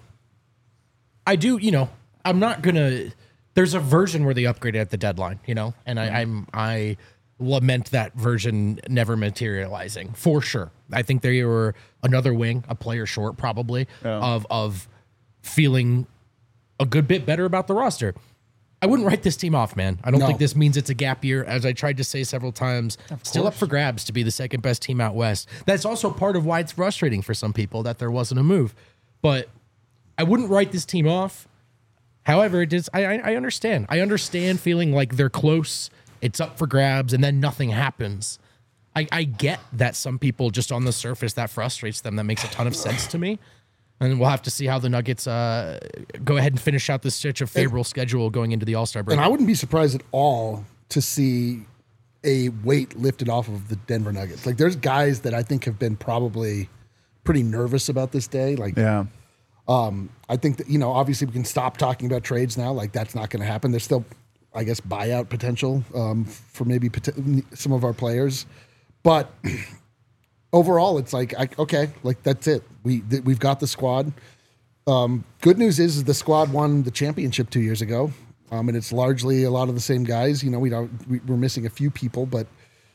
I do, I'm not gonna. There's a version where they upgraded at the deadline, and I lament that version never materializing for sure. I think they were another wing, a player short probably of feeling a good bit better about the roster. I wouldn't write this team off, man. I don't think this means it's a gap year, as I tried to say several times. Still up for grabs to be the second best team out west. That's also part of why it's frustrating for some people that there wasn't a move. But I wouldn't write this team off. However, it is. I understand. I understand feeling like they're close, it's up for grabs, and then nothing happens. I get that some people just on the surface that frustrates them. That makes a ton of sense to me. And we'll have to see how the Nuggets go ahead and finish out this stretch of favorable schedule going into the All-Star break. And I wouldn't be surprised at all to see a weight lifted off of the Denver Nuggets. Like, there's guys that I think have been probably pretty nervous about this day. Like, Yeah. I think that, obviously we can stop talking about trades now. Like, that's not going to happen. There's still, I guess, buyout potential for maybe some of our players. But overall, it's like, okay, like that's it. We've got the squad. Good news is the squad won the championship 2 years ago, and it's largely a lot of the same guys. We're missing a few people, but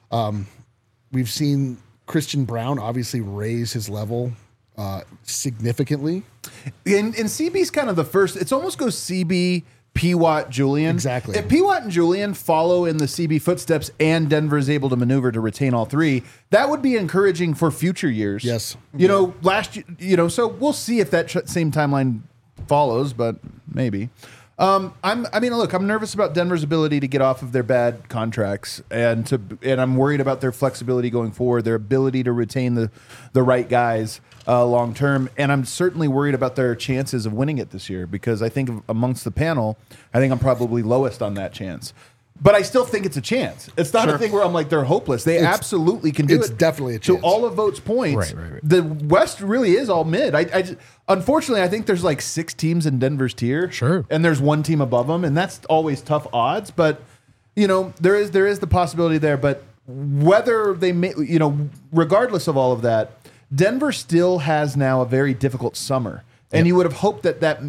we've seen Christian Brown obviously raise his level significantly. And CB's kind of the first. It's almost goes CB, P. Watt, Julian. Exactly. If P. Watt and Julian follow in the CB footsteps and Denver is able to maneuver to retain all three, that would be encouraging for future years. Yes. Last year, so we'll see if that same timeline follows, but maybe. I'm nervous about Denver's ability to get off of their bad contracts, and I'm worried about their flexibility going forward, their ability to retain the right guys long term, and I'm certainly worried about their chances of winning it this year, because I think amongst the panel, I think I'm probably lowest on that chance. But I still think it's a chance. It's not a thing where I'm like they're hopeless. They absolutely can do it. It's definitely a chance. To all of Vote's points, Right. the West really is all mid. Unfortunately, I think there's like 6 teams in Denver's tier. Sure. And there's one team above them, and that's always tough odds. But, there is the possibility there. But whether they may, regardless of all of that, Denver still has now a very difficult summer. And you would have hoped that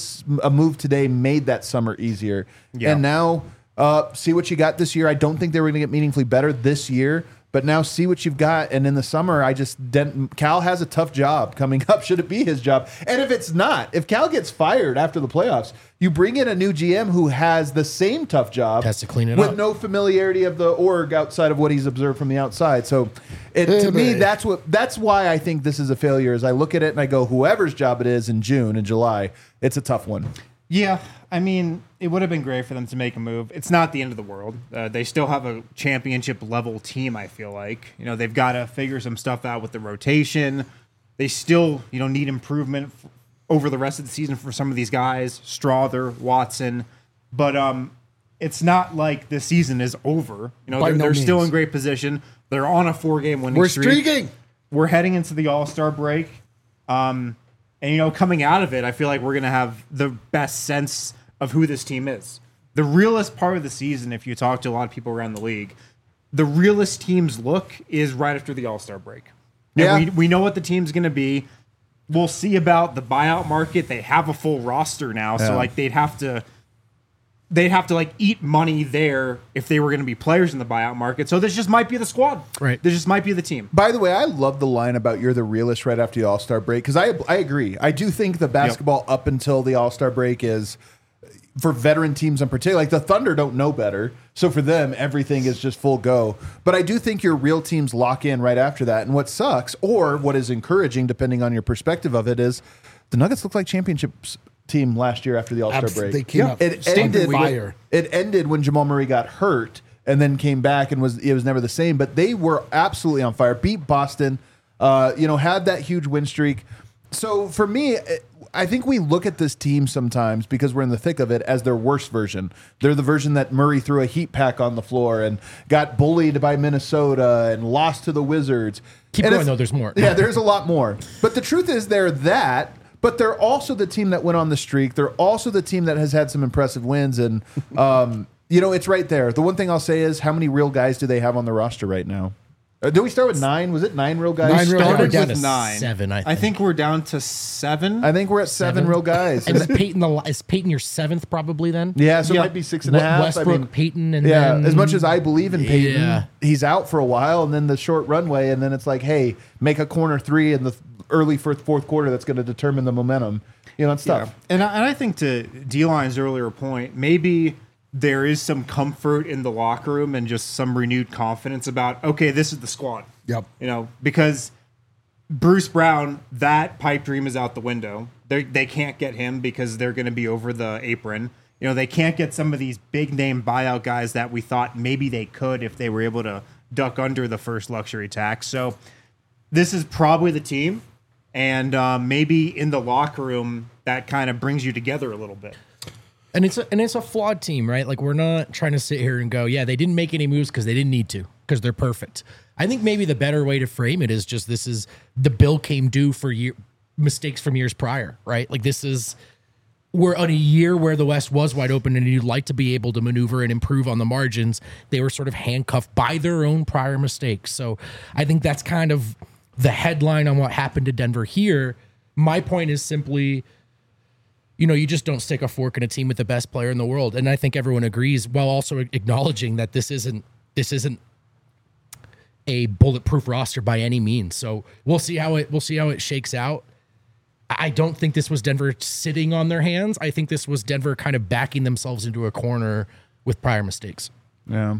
a move today made that summer easier. Yeah. And now see what you got this year. I don't think they were going to get meaningfully better this year, but now see what you've got. And in the summer, Cal has a tough job coming up. Should it be his job? And if it's not, if Cal gets fired after the playoffs, you bring in a new GM who has the same tough job, Has to clean it with up. no familiarity of the org outside of what he's observed from the outside. So, to me, that's why I think this is a failure. As I look at it and I go, whoever's job it is in June and July, it's a tough one. Yeah, I mean, it would have been great for them to make a move. It's not the end of the world. They still have a championship level team, I feel like. They've got to figure some stuff out with the rotation. They still, need improvement over the rest of the season for some of these guys, Strawther, Watson. But it's not like the season is over. They're still in great position. They're on a 4-game winning streak. We're streaking. We're heading into the All-Star break. And, coming out of it, I feel like we're going to have the best sense of who this team is. The realest part of the season, if you talk to a lot of people around the league, the realest team's look is right after the All-Star break. Yeah. And we know what the team's going to be. we'll see about the buyout market. They have a full roster now, so Yeah. like they'd have to like eat money there if they were going to be players in the buyout market. So this just might be the squad. Right. This just might be the team. By the way, I love the line about you're the realist right after the All-Star break because I agree. I do think the basketball up until the All-Star break is for veteran teams in particular. Like the Thunder don't know better, so for them everything is just full go. But I do think your real teams lock in right after that. And what sucks, or what is encouraging, depending on your perspective of it, is the Nuggets look like championships team last year after the All-Star break. They came up It stomping ended. fire. It ended when Jamal Murray got hurt and then came back and it was never the same. But they were absolutely on fire. Beat Boston. Had that huge win streak. So for me, I think we look at this team sometimes because we're in the thick of it as their worst version. They're the version that Murray threw a heat pack on the floor and got bullied by Minnesota and lost to the Wizards. Keep And going, it's- though. There's more. Yeah, there's a lot more. But the truth is they're that, but they're also the team that went on the streak. They're also the team that has had some impressive wins. And, it's right there. The one thing I'll say is how many real guys do they have on the roster right now? Did we start with 9? Was it 9 real guys? 9 real Started guys. down with to 9. 7, I I think. think we're down to 7. I think we're at 7 real guys. And is Peyton your 7th probably then? Yeah, so Yeah. it might be 6.5. Westbrook, Peyton, and yeah, then as much as I believe in Peyton, Yeah. he's out for a while, and then the short runway, and then it's like, hey, make a corner 3 in the early fourth quarter that's going to determine the momentum. It's tough. And I think to D-Line's earlier point, maybe there is some comfort in the locker room and just some renewed confidence about, okay, this is the squad. Yep. Because Bruce Brown, that pipe dream is out the window. They can't get him because they're going to be over the apron. They can't get some of these big name buyout guys that we thought maybe they could if they were able to duck under the first luxury tax. So this is probably the team. And maybe in the locker room, that kind of brings you together a little bit. And it's a flawed team, right? Like we're not trying to sit here and go, yeah, they didn't make any moves because they didn't need to, because they're perfect. I think maybe the better way to frame it is just this is the bill came due for mistakes from years prior, right? Like we're on a year where the West was wide open and you'd like to be able to maneuver and improve on the margins. They were sort of handcuffed by their own prior mistakes. So I think that's kind of the headline on what happened to Denver here. My point is simply, you just don't stick a fork in a team with the best player in the world. And I think everyone agrees, while also acknowledging that this isn't a bulletproof roster by any means. So we'll see how it shakes out. I don't think this was Denver sitting on their hands. I think this was Denver kind of backing themselves into a corner with prior mistakes. Yeah.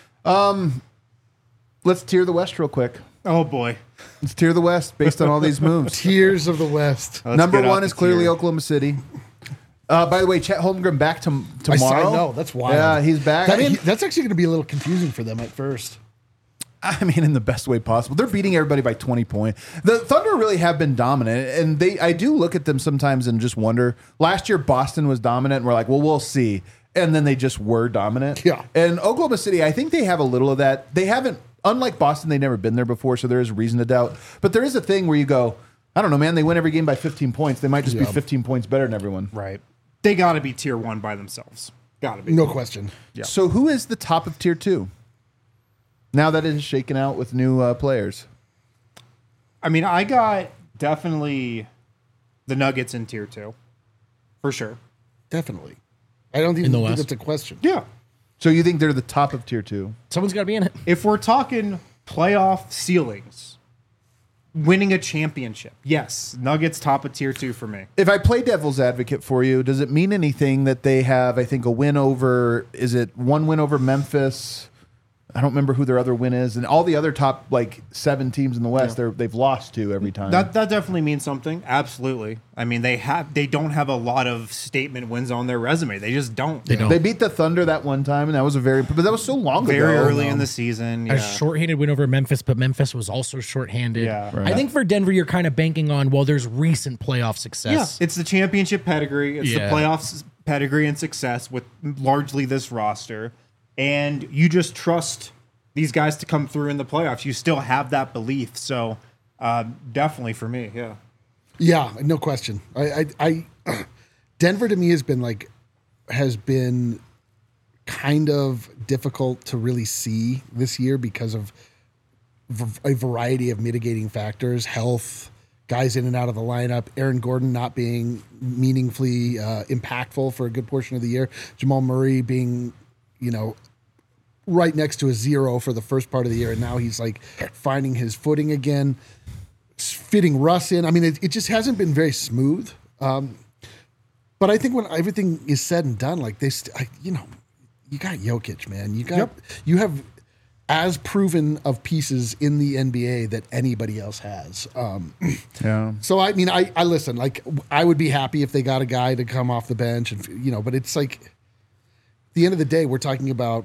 Let's tier the West real quick. Oh, boy. Let's tier the West based on all these moves. Tears of the West. Let's Number get out 1 the is clearly tier. Oklahoma City. By the way, Chet Holmgren back tomorrow. I know, that's wild. Yeah, he's back. That's actually going to be a little confusing for them at first. In the best way possible. They're beating everybody by 20 points. The Thunder really have been dominant, and I do look at them sometimes and just wonder. Last year, Boston was dominant, and we're like, well, we'll see. And then they just were dominant. Yeah. And Oklahoma City, I think they have a little of that. They haven't, unlike Boston, they've never been there before, so there is reason to doubt. But there is a thing where you go, I don't know, man, they win every game by 15 points. They might just be 15 points better than everyone. Right. They got to be tier 1 by themselves. Got to be. No question. Yeah. So who is the top of tier 2? Now that it is shaken out with new players. I got definitely the Nuggets in tier 2. For sure. Definitely. I don't even the think West? that's a question. Yeah. So you think they're the top of tier 2? Someone's got to be in it. If we're talking playoff ceilings, winning a championship, yes, Nuggets top of tier 2 for me. If I play devil's advocate for you, does it mean anything that they have, I think, a win over, is it one win over Memphis? I don't remember who their other win is. And all the other top, 7 teams in the West, they've lost to every time. That definitely means something. Absolutely. They don't have a lot of statement wins on their resume. They just don't. They don't. They beat the Thunder that one time, and that was but that was so long Very ago. early in the season. A Yeah. shorthanded win over Memphis, but Memphis was also shorthanded. Yeah. Right. I think for Denver, you're kind of banking on, there's recent playoff success. Yeah, it's the championship pedigree. It's Yeah. the playoffs pedigree and success with largely this roster. And you just trust these guys to come through in the playoffs. You still have that belief. So definitely for me, yeah. Yeah, no question. I Denver to me has been kind of difficult to really see this year because of a variety of mitigating factors, health, guys in and out of the lineup, Aaron Gordon not being meaningfully impactful for a good portion of the year, Jamal Murray being, right next to a 0 for the first part of the year, and now he's like finding his footing again, fitting Russ in. I mean, it just hasn't been very smooth. But I think when everything is said and done, like you got Jokic, man. You have as proven of pieces in the NBA that anybody else has. Yeah. So I mean, I listen. Like, I would be happy if they got a guy to come off the bench, and but it's like, at the end of the day, we're talking about,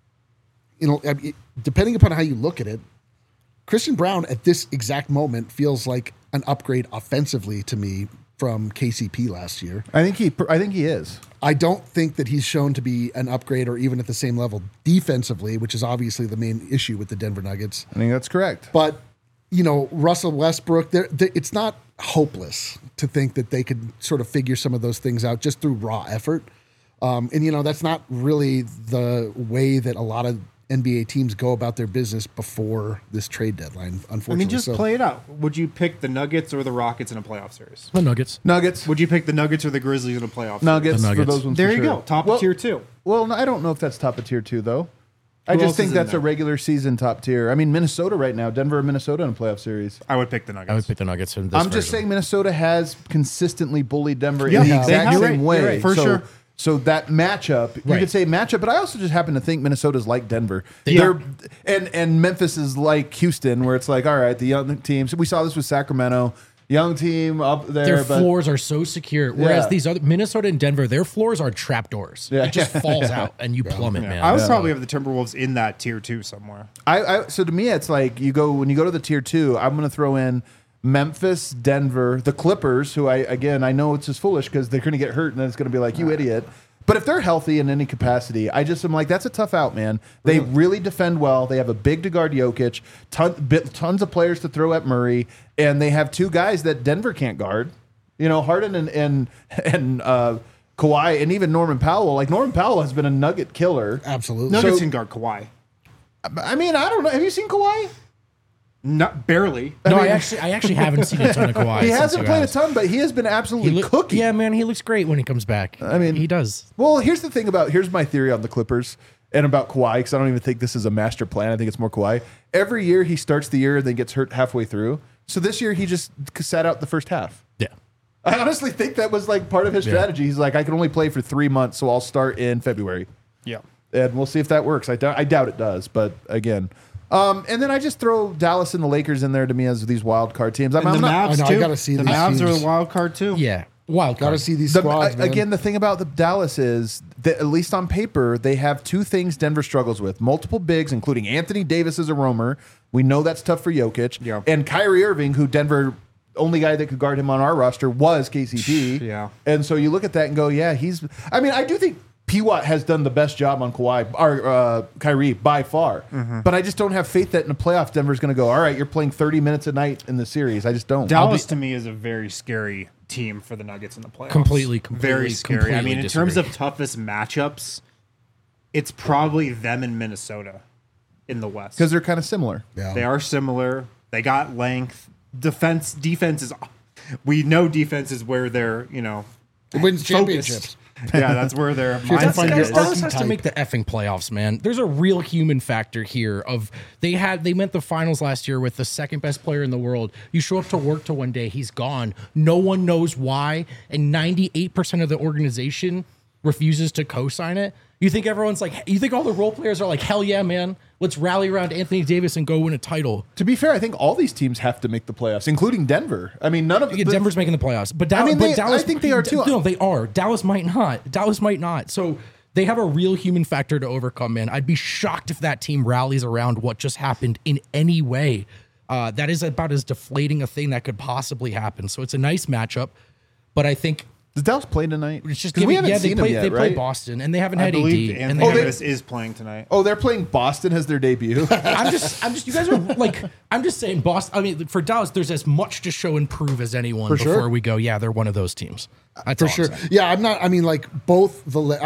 depending upon how you look at it, Christian Brown at this exact moment feels like an upgrade offensively to me from KCP last year. I think he is. I don't think that he's shown to be an upgrade or even at the same level defensively, which is obviously the main issue with the Denver Nuggets. I think that's correct. But, Russell Westbrook, it's not hopeless to think that they could sort of figure some of those things out just through raw effort. And that's not really the way that a lot of NBA teams go about their business before this trade deadline, unfortunately. I mean, just play it out. Would you pick the Nuggets or the Rockets in a playoff series? The Nuggets. Nuggets. Would you pick the Nuggets or the Grizzlies in a playoff Nuggets, The for Nuggets. those ones. series? for There you sure. go. Top of tier 2. Well, no, I don't know if that's top of tier 2 though. I Who just else think is in that's a there? regular season top tier. I mean, Minnesota right now, Denver and Minnesota in a playoff series. I would pick the Nuggets. I would pick the Nuggets. In this I'm just version. saying Minnesota has consistently bullied Denver Yeah, in the they exact have. same You're way. right, for so, sure. So that matchup, you Right. could say matchup, but I also just happen to think Minnesota's like Denver. Yeah. And Memphis is like Houston, where it's like, all right, the young teams. We saw this with Sacramento, young team up there. Their but floors are so secure. Whereas Yeah. these other Minnesota and Denver, their floors are trapdoors. Yeah. It just falls out and you plummet, man. I would probably have the Timberwolves in that tier 2 somewhere. So to me, it's like when you go to the tier 2, I'm going to throw in Memphis, Denver, the Clippers, who I know it's just foolish because they're going to get hurt and then it's going to be like, you idiot. But if they're healthy in any capacity, I just am like, that's a tough out, man. They really defend well. They have a big to guard Jokic, tons of players to throw at Murray, and they have two guys that Denver can't guard. Harden and Kawhi, and even Norman Powell. Like, Norman Powell has been a nugget killer. Absolutely. Nuggets So- can guard Kawhi. I mean, I don't know. Have you seen Kawhi? Not barely. No, I actually haven't seen a ton of Kawhi. He since hasn't you played a asked. ton, but he has been absolutely cooking. Yeah, man, he looks great when he comes back. I mean, he does. Well, here's my theory on the Clippers and about Kawhi, because I don't even think this is a master plan. I think it's more Kawhi. Every year he starts the year and then gets hurt halfway through. So this year he just sat out the first half. Yeah. I honestly think that was like part of his strategy. He's like, I can only play for 3 months, so I'll start in February. Yeah. And we'll see if that works. I doubt it does, but again. And then I just throw Dallas and the Lakers in there to me as these wild card teams. And the Mavs, I know, I too. gotta see the these Mavs are teams. the wild card, too. Yeah. Wild Got to card. see these squads, man. Again, the thing about the Dallas is that, at least on paper, they have two things Denver struggles with: multiple bigs, including Anthony Davis as a roamer. We know that's tough for Jokic. Yeah. And Kyrie Irving, who Denver, only guy that could guard him on our roster was KCP. Yeah. And so you look at that and go, yeah, I do think P-Watt has done the best job on Kyrie by far. Mm-hmm. But I just don't have faith that in the playoffs Denver's going to go, all right, you're playing 30 minutes a night in the series. I just don't. Dallas, to me, is a very scary team for the Nuggets in the playoffs. Completely, Very scary. I mean, in terms disagree. of toughest matchups, it's probably them and Minnesota in the West. Because they're kind of similar. Yeah. They are similar. They got length. Defense is. We know defense is where they're, It wins championships. Yeah, that's where their have to mindset find your is. Dallas has to archetype. make the effing playoffs, man. There's a real human factor here. They went the finals last year with the second best player in the world. You show up to work to one day, he's gone. No one knows why, and 98% of the organization refuses to co-sign it. You think everyone's like, you think all the role players are like, hell yeah, man, let's rally around Anthony Davis and go win a title. To be fair, I think all these teams have to make the playoffs, including Denver. I mean, none of Yeah, Denver's making the playoffs, but Dallas, I think they are too. No, they are. Dallas might not. So they have a real human factor to overcome, man. I'd be shocked if that team rallies around what just happened in any way. That is about as deflating a thing that could possibly happen. So it's a nice matchup, but I think Does Dallas play tonight? it's just 'Cause we haven't they seen play, them yet, they play right? Boston, and they haven't I had believe AD. And Anthony they Davis is playing tonight. Oh, they're playing Boston as their debut. I'm just you guys are like, I'm just saying Boston. I mean, for Dallas, there's as much to show and prove as anyone For before sure. we go, yeah, they're one of those teams. That's For all I'm sure. saying. Yeah, I'm not. I mean, like both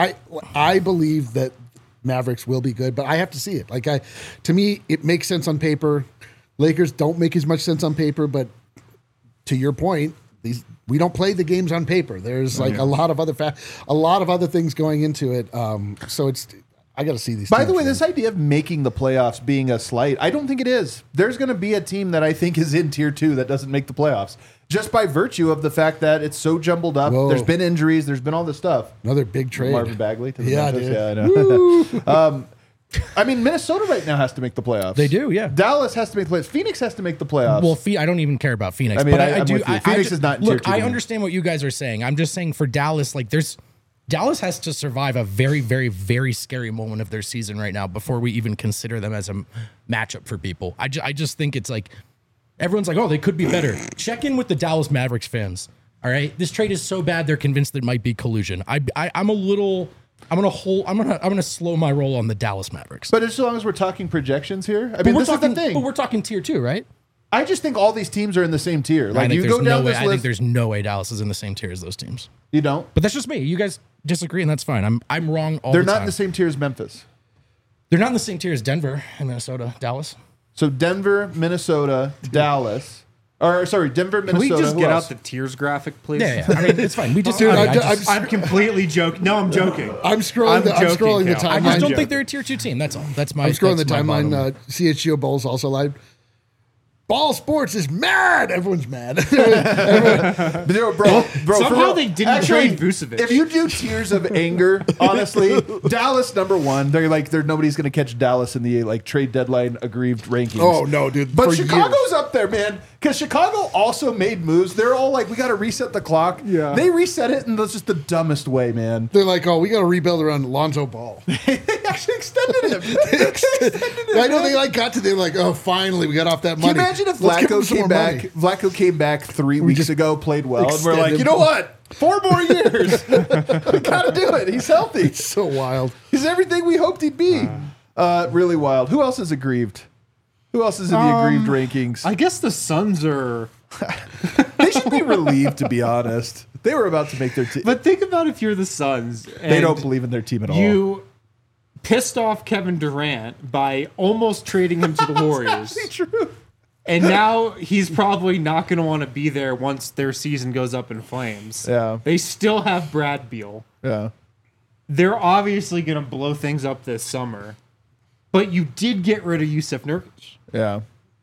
I believe that Mavericks will be good, but I have to see it. To me, it makes sense on paper. Lakers don't make as much sense on paper, but to your point, we don't play the games on paper. There's like a lot of other things going into it. So I got to see these. By the teams, way, man. this idea of making the playoffs being a slight, I don't think it is. There's going to be a team that I think is in tier 2 that doesn't make the playoffs just by virtue of the fact that it's so jumbled up. Whoa. There's been injuries. There's been all this stuff. Another big trade. Marvin Bagley to the Yeah, Memphis. dude. Yeah, I know. I mean, Minnesota right now has to make the playoffs. They do, yeah. Dallas has to make the playoffs. Phoenix has to make the playoffs. Well, I don't even care about Phoenix. I mean, but I I'm do. with you. Phoenix is not in look. tier 2 I to me. understand what you guys are saying. I'm just saying for Dallas, like Dallas has to survive a very, very, very scary moment of their season right now before we even consider them as a matchup for people. I just think it's like everyone's like, oh, they could be better. Check in with the Dallas Mavericks fans. All right, this trade is so bad they're convinced it might be collusion. I'm gonna slow my roll on the Dallas Mavericks. But as long as we're talking projections here, I mean, this is the thing. But we're talking tier 2, right? I just think all these teams are in the same tier. Like you go down this I think list, there's no way Dallas is in the same tier as those teams. you don't. But that's just me. You guys disagree, and that's fine. I'm wrong all They're the not time. in the same tier as Memphis. They're not in the same tier as Denver and Minnesota, Dallas. So Denver, Minnesota, Dallas. Or sorry, Denver, Can Minnesota. we just who get else? out the tiers graphic, please? Yeah. I mean, it's fine. We just. Dude, I'm completely joking. No, I'm joking. I'm scrolling the joking, timeline. I just I'm don't joking. think they're a tier 2 team. That's all. That's my. I'm scrolling the that's my timeline. bottom line. CHGO Bowls also live. Ball Sports is mad. Everyone's mad. Bro, for Somehow real. they didn't trade Vucevic. If you do tiers of anger, honestly, Dallas number 1. They're nobody's going to catch Dallas in the like trade deadline aggrieved rankings. Oh, no, dude. But For Chicago's years. up there, man. Because Chicago also made moves. They're all like, we got to reset the clock. Yeah. They reset it in just the dumbest way, man. They're like, oh, we got to rebuild around Lonzo Ball. They actually extended him. I know they got to. They're like, oh, finally, we got off that money. Can you imagine if Let's give them Vlaco some came more back? money. Vlaco came back 3 weeks just ago, played well, and we're like, extended you know him. what? 4 more years. We gotta do it. He's healthy. So wild. He's everything we hoped he'd be. Really wild. Who else is aggrieved? Who else is in the aggrieved rankings? I guess the Suns are. They should be relieved, to be honest. They were about to make their team. But think about if you're the Suns. They don't believe in their team at all. You pissed off Kevin Durant by almost trading him to the Warriors. True. And now he's probably not going to want to be there once their season goes up in flames. Yeah. They still have Brad Beal. Yeah. They're obviously going to blow things up this summer. But you did get rid of Yusuf Nurkic. Yeah.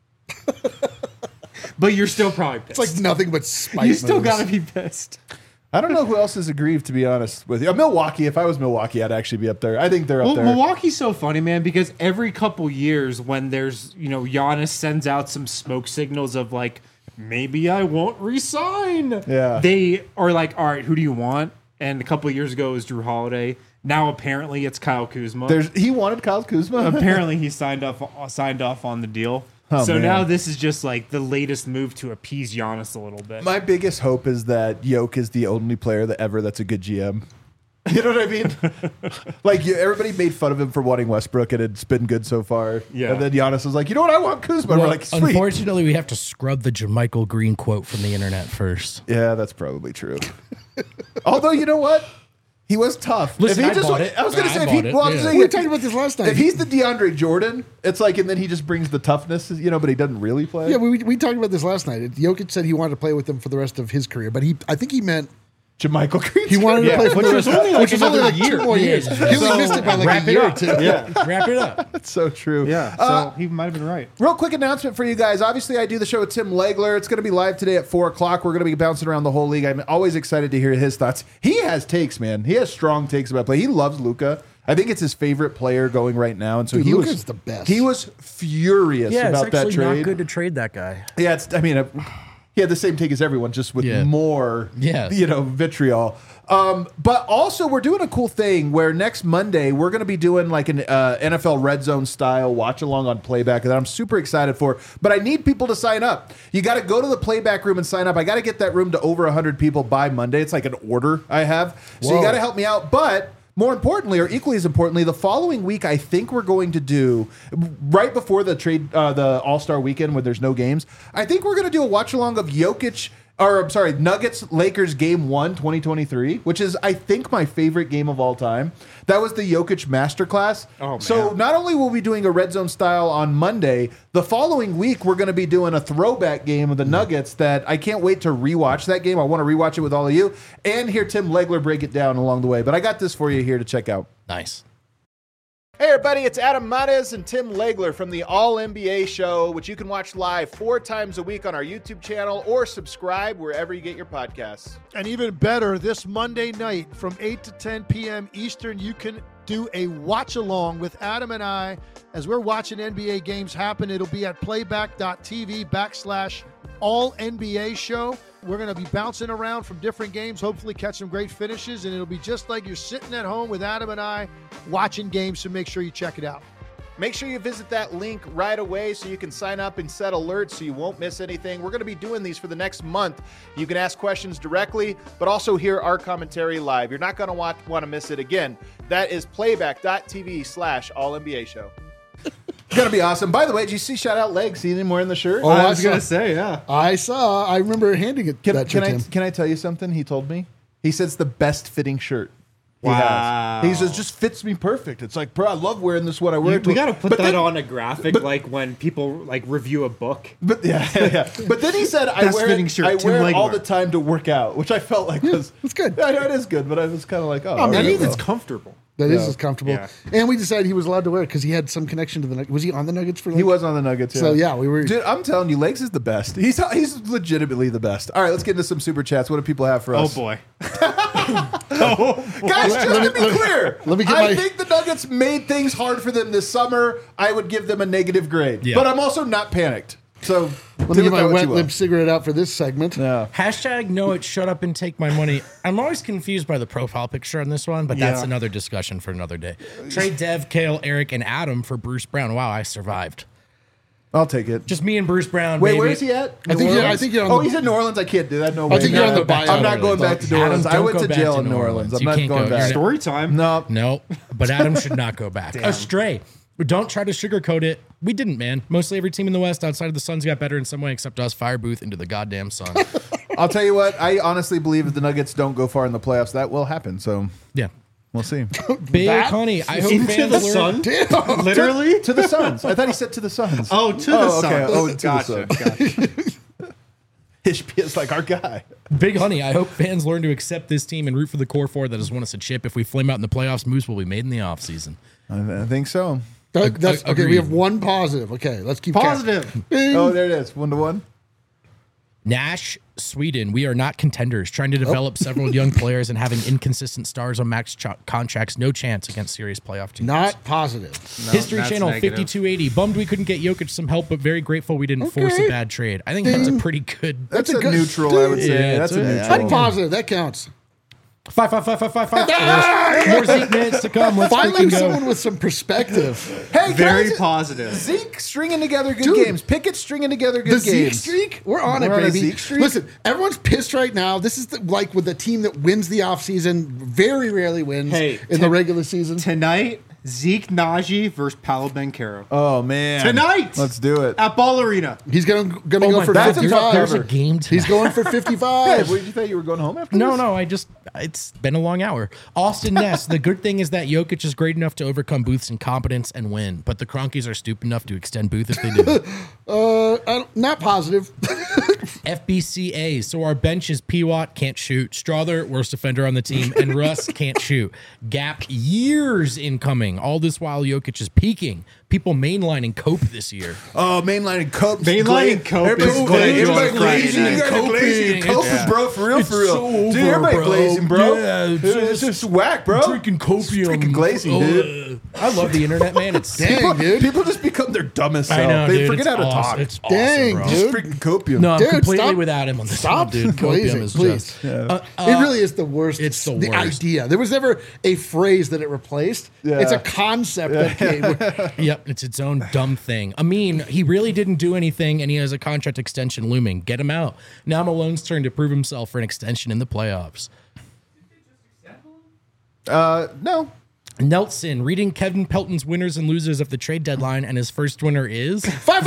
But you're still probably pissed. It's like nothing but spite. you still moves. got to be pissed. I don't know who else is aggrieved, to be honest with you. Milwaukee. If I was Milwaukee, I'd actually be up there. I think they're up Well, there. Milwaukee's so funny, man, because every couple years when there's, Giannis sends out some smoke signals of like, maybe I won't resign. Yeah. They are like, all right, who do you want? And a couple of years ago it was Drew Holiday. Now apparently it's Kyle Kuzma. He wanted Kyle Kuzma. Apparently he signed off on the deal. Oh, so man. now this is just like the latest move to appease Giannis a little bit. My biggest hope is that Jokic is the only player that's a good GM. You know what I mean? Like everybody made fun of him for wanting Westbrook, and it's been good so far. Yeah. And then Giannis was like, you know what? I want Kuzma. Well, We're like, sweet. unfortunately, we have to scrub the JaMychal Green quote from the internet first. Yeah, that's probably true. Although, you know what? He was tough. Listen, If he I bought it. I was going to I say, bought it, I was yeah. saying, We were talking about this last night. If he's the DeAndre Jordan, it's like, and then he just brings the toughness, but he doesn't really play. Yeah, we talked about this last night. Jokic said he wanted to play with them for the rest of his career, but I think he meant JaMychal Green. he wanted to play for which the was rest, only like which was only another like 2 year. more years. Yeah. He only missed it by like Wrap a it year or up. 2. Yeah. Wrap it up. That's so true. Yeah. So he might have been right. Real quick announcement for you guys. Obviously, I do the show with Tim Legler. It's going to be live today at 4 o'clock. We're going to be bouncing around the whole league. I'm always excited to hear his thoughts. He has takes, man. He has strong takes about play. He loves Luka. I think it's his favorite player going right now. And so Dude, he Luka's was the best. He was furious about that trade. to trade that guy. Yeah, he had the same take as everyone, just with Yeah. more, Yeah. vitriol. But also, we're doing a cool thing where next Monday we're going to be doing like an NFL Red Zone style watch along on Playback that I'm super excited for. But I need people to sign up. You got to go to the Playback room and sign up. I got to get that room to over 100 people by Monday. It's like an order I have, so you Whoa. got to help me out. But more importantly, or equally as importantly, the following week, I think we're going to do right before the All-Star weekend when there's no games. I think we're going to do a watch along of Jokic or I'm sorry, Nuggets Lakers game 1, 2023, which is I think my favorite game of all time. That was the Jokic masterclass. Oh, man. So not only will we be doing a red zone style on Monday, the following week we're going to be doing a throwback game of the Nuggets that I can't wait to rewatch that game. I want to rewatch it with all of you and hear Tim Legler break it down along the way. But I got this for you here to check out. Nice. Hey everybody, it's Adam Mares and Tim Legler from the All NBA Show, which you can watch live 4 times a week on our YouTube channel or subscribe wherever you get your podcasts. And even better, this Monday night from 8 to 10 p.m. Eastern, you can do a watch along with Adam and I as we're watching NBA games happen. It'll be at playback.tv/All NBA Show. We're going to be bouncing around from different games, hopefully catch some great finishes, and it'll be just like you're sitting at home with Adam and I watching games, so make sure you check it out. Make sure you visit that link right away so you can sign up and set alerts so you won't miss anything. We're going to be doing these for the next month. You can ask questions directly, but also hear our commentary live. You're not going to want to miss it again. That is playback.tv/All NBA Show. It's going to be awesome. By the way, did you see shout out Leg? See him wearing the shirt? Oh, I was saw- going to say, yeah. I remember handing it that to him. Can I tell you something he told me? He said it's the best fitting shirt he Wow. has. He says, just fits me perfect. It's like, bro, I love wearing this when I wear it. We got to put But that then- on a graphic, like when people like review a book. But yeah. But then he said, I Best wear fitting it, shirt, I Tim wear it all Legler. the time to work out, which I felt like was it's good. I know it is good, but I was kind of like, oh, I mean, That okay, means well. it's comfortable. That is as comfortable. Yeah. And we decided he was allowed to wear it because he had some connection to the Nuggets. Was he on the Nuggets for like, He was on the Nuggets. So, yeah, we were- Dude, I'm telling you, Legs is the best. He's legitimately the best. All right, let's get into some super chats. What do people have for Oh, us? boy. Guys, just to be clear, let me get I my- think the Nuggets made things hard for them this summer. I would give them a negative grade, Yeah. but I'm also not panicked. So Let do me get with my that what wet you will. lip cigarette out for this segment. Yeah. Hashtag no, it shut up and take my money. I'm always confused by the profile picture on this one, but that's Yeah. another discussion for another day. Trade Dev, Kale, Eric, and Adam for Bruce Brown. Wow, I survived. I'll take it. Just me and Bruce Brown. Wait, baby. where is he at? I think you're on Oh, the- he's in New Orleans. I can't do that. No way. I think you're on the back buyout. I'm not going back to New Orleans. Adam, I went don't to go jail back in to New New Orleans. Orleans. I'm You not can't going go. back. You're Story time. No. No, but Adam should not go back. Astray. Don't try to sugarcoat it. We didn't, man. Mostly every team in the West outside of the Suns got better in some way except us. Fire Booth into the goddamn sun. I'll tell you what. I honestly believe if the Nuggets don't go far in the playoffs, that will happen. So Yeah. we'll see. Big That- honey. I hope Into fans the learn. sun? Literally? To the Suns. I thought he said to the Suns. Oh, to the sun. okay. Oh, to the gotcha. Suns. Gotcha. Ishbia is like our guy. Big honey. I hope fans learn to accept this team and root for the core four that has won us a chip. If we flame out in the playoffs, moves will be made in the offseason. I think so. That's, okay, Agreed. we have one positive. Okay, let's keep Positive. Bing. Oh, there it is. 1-1. Nash, Sweden. We are not contenders. Trying to develop several young players and having inconsistent stars on max contracts. No chance against serious playoff teams. Not positive. History that's Channel negative. 5280. Bummed we couldn't get Jokic some help, but very grateful we didn't force Okay. a bad trade. I think that's a pretty good. That's a a good- neutral, I would say. Yeah, That's a it's a- neutral. That's positive. That counts. 5. More Zeke minutes to come. Let's Finally, freaking go. someone with some perspective. Hey, can Very I just- positive. Zeke stringing together good Dude. games. Pickett stringing together The good Zeke games. streak? We're on it, We're on a baby. Zeke streak? Listen, everyone's pissed right now. This is like with the team that wins the offseason, very rarely wins Hey, in the regular season. Tonight, Zeke Naji versus Paolo Banchero. Oh, man. Tonight! Let's do it. At Ball Arena. He's gonna Oh go my for God, that's a tough 55. there's a cover. game tonight. He's going for Hey, 55. what did you think? You were going home after No, this? no, it's been a long hour. Austin Ness, the good thing is that Jokic is great enough to overcome Booth's incompetence and win, but the Cronkies are stupid enough to extend Booth if they do. Not positive. FBCA, so our bench is P-Watt, can't shoot. Strother, worst defender on the team, and Russ can't shoot. Gap years incoming. All this while Jokic is peaking. People mainlining Cope this year. Oh, mainlining Cope. Mainlining Cope is Everybody's glazing everybody on Friday glazing. You night. guys are glazing. Cope is bro, for real, It's for real. so Dude, over, everybody bro. glazing, bro. Yeah, it's just whack, bro. Drinking copium. Freaking glazing, dude. I love the internet, man. It's Dang, dude. People just become their dumbest self. I know, They dude. forget It's how to awesome. talk. It's awesome, Dang, bro. dude. Just freaking copium. No, I'm Dude, completely stop- without him on this Stop one, dude. Copium glazing, is please. just... It really is the worst. it's the the worst. idea. There was never a phrase that it replaced. Yeah. It's a concept that came. Yep, it's its own dumb thing. I mean, he really didn't do anything, and he has a contract extension looming. Get him out. Now Malone's turn to prove himself for an extension in the playoffs. No. Nelson reading Kevin Pelton's winners and losers of the trade deadline, and his first winner is Five.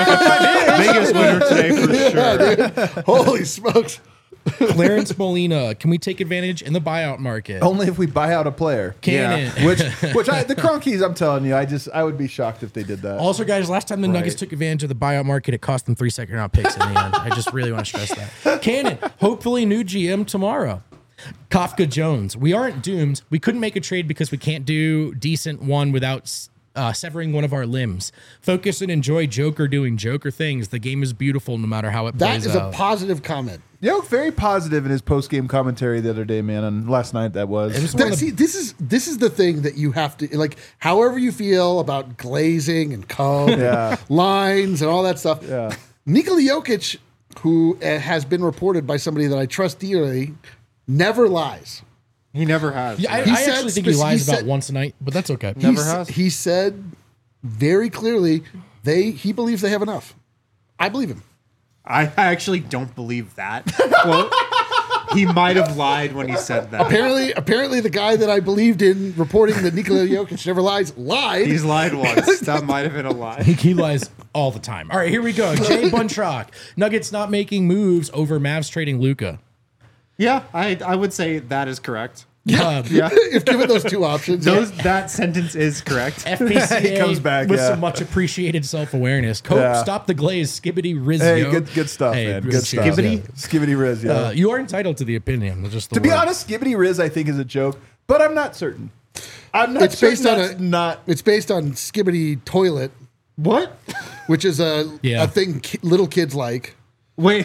Biggest winner today for sure. Dude. Holy smokes. Clarence Molina. Can we take advantage in the buyout market? Only if we buy out a player. Cannon. The Cronkies, I'm telling you, I would be shocked if they did that. Also, guys, last time the Nuggets took advantage of the buyout market, it cost them 3 second-round picks in the end. I just really want to stress that. Cannon, hopefully new GM tomorrow. Kafka Jones, we aren't doomed. We couldn't make a trade because we can't do decent one without severing one of our limbs. Focus and enjoy Joker doing Joker things. The game is beautiful no matter how it That plays is out. a positive comment. Yoke very positive in his post game commentary the other day, man, and last night that was. It was one of the- See, this is the thing that you have to like. However you feel about glazing and code, lines and all that stuff. Yeah. Nikola Jokic, who has been reported by somebody that I trust dearly, never lies. He never has. Yeah, I He actually said think he spec- lies he about said- once a night, but that's okay. Never has. He said very clearly he believes they have enough. I believe him. I actually don't believe that quote. He might have lied when he said that. Apparently, the guy that I believed in reporting that Nikola Jokic never lied. He's lied once. That might have been a lie. He lies all the time. All right, here we go. Jay Buntrock. Nuggets not making moves over Mavs trading Luka. Yeah, I would say that is correct. Yeah. If given those two options, That sentence is correct. FPCA He comes back, with yeah. some much appreciated self-awareness. Cope, Yeah. stop the glaze. Skibbity Riz. Hey, yo. good stuff, man. Good cheers. stuff. Skibbity? Skibbity Riz, yeah. You are entitled to the opinion. That's just the to be word. honest, Skibbity Riz I think is a joke, but I'm not certain. I'm not It's certain based on that's not. It's based on Skibbity Toilet, What? which is a thing little kids like. Wait.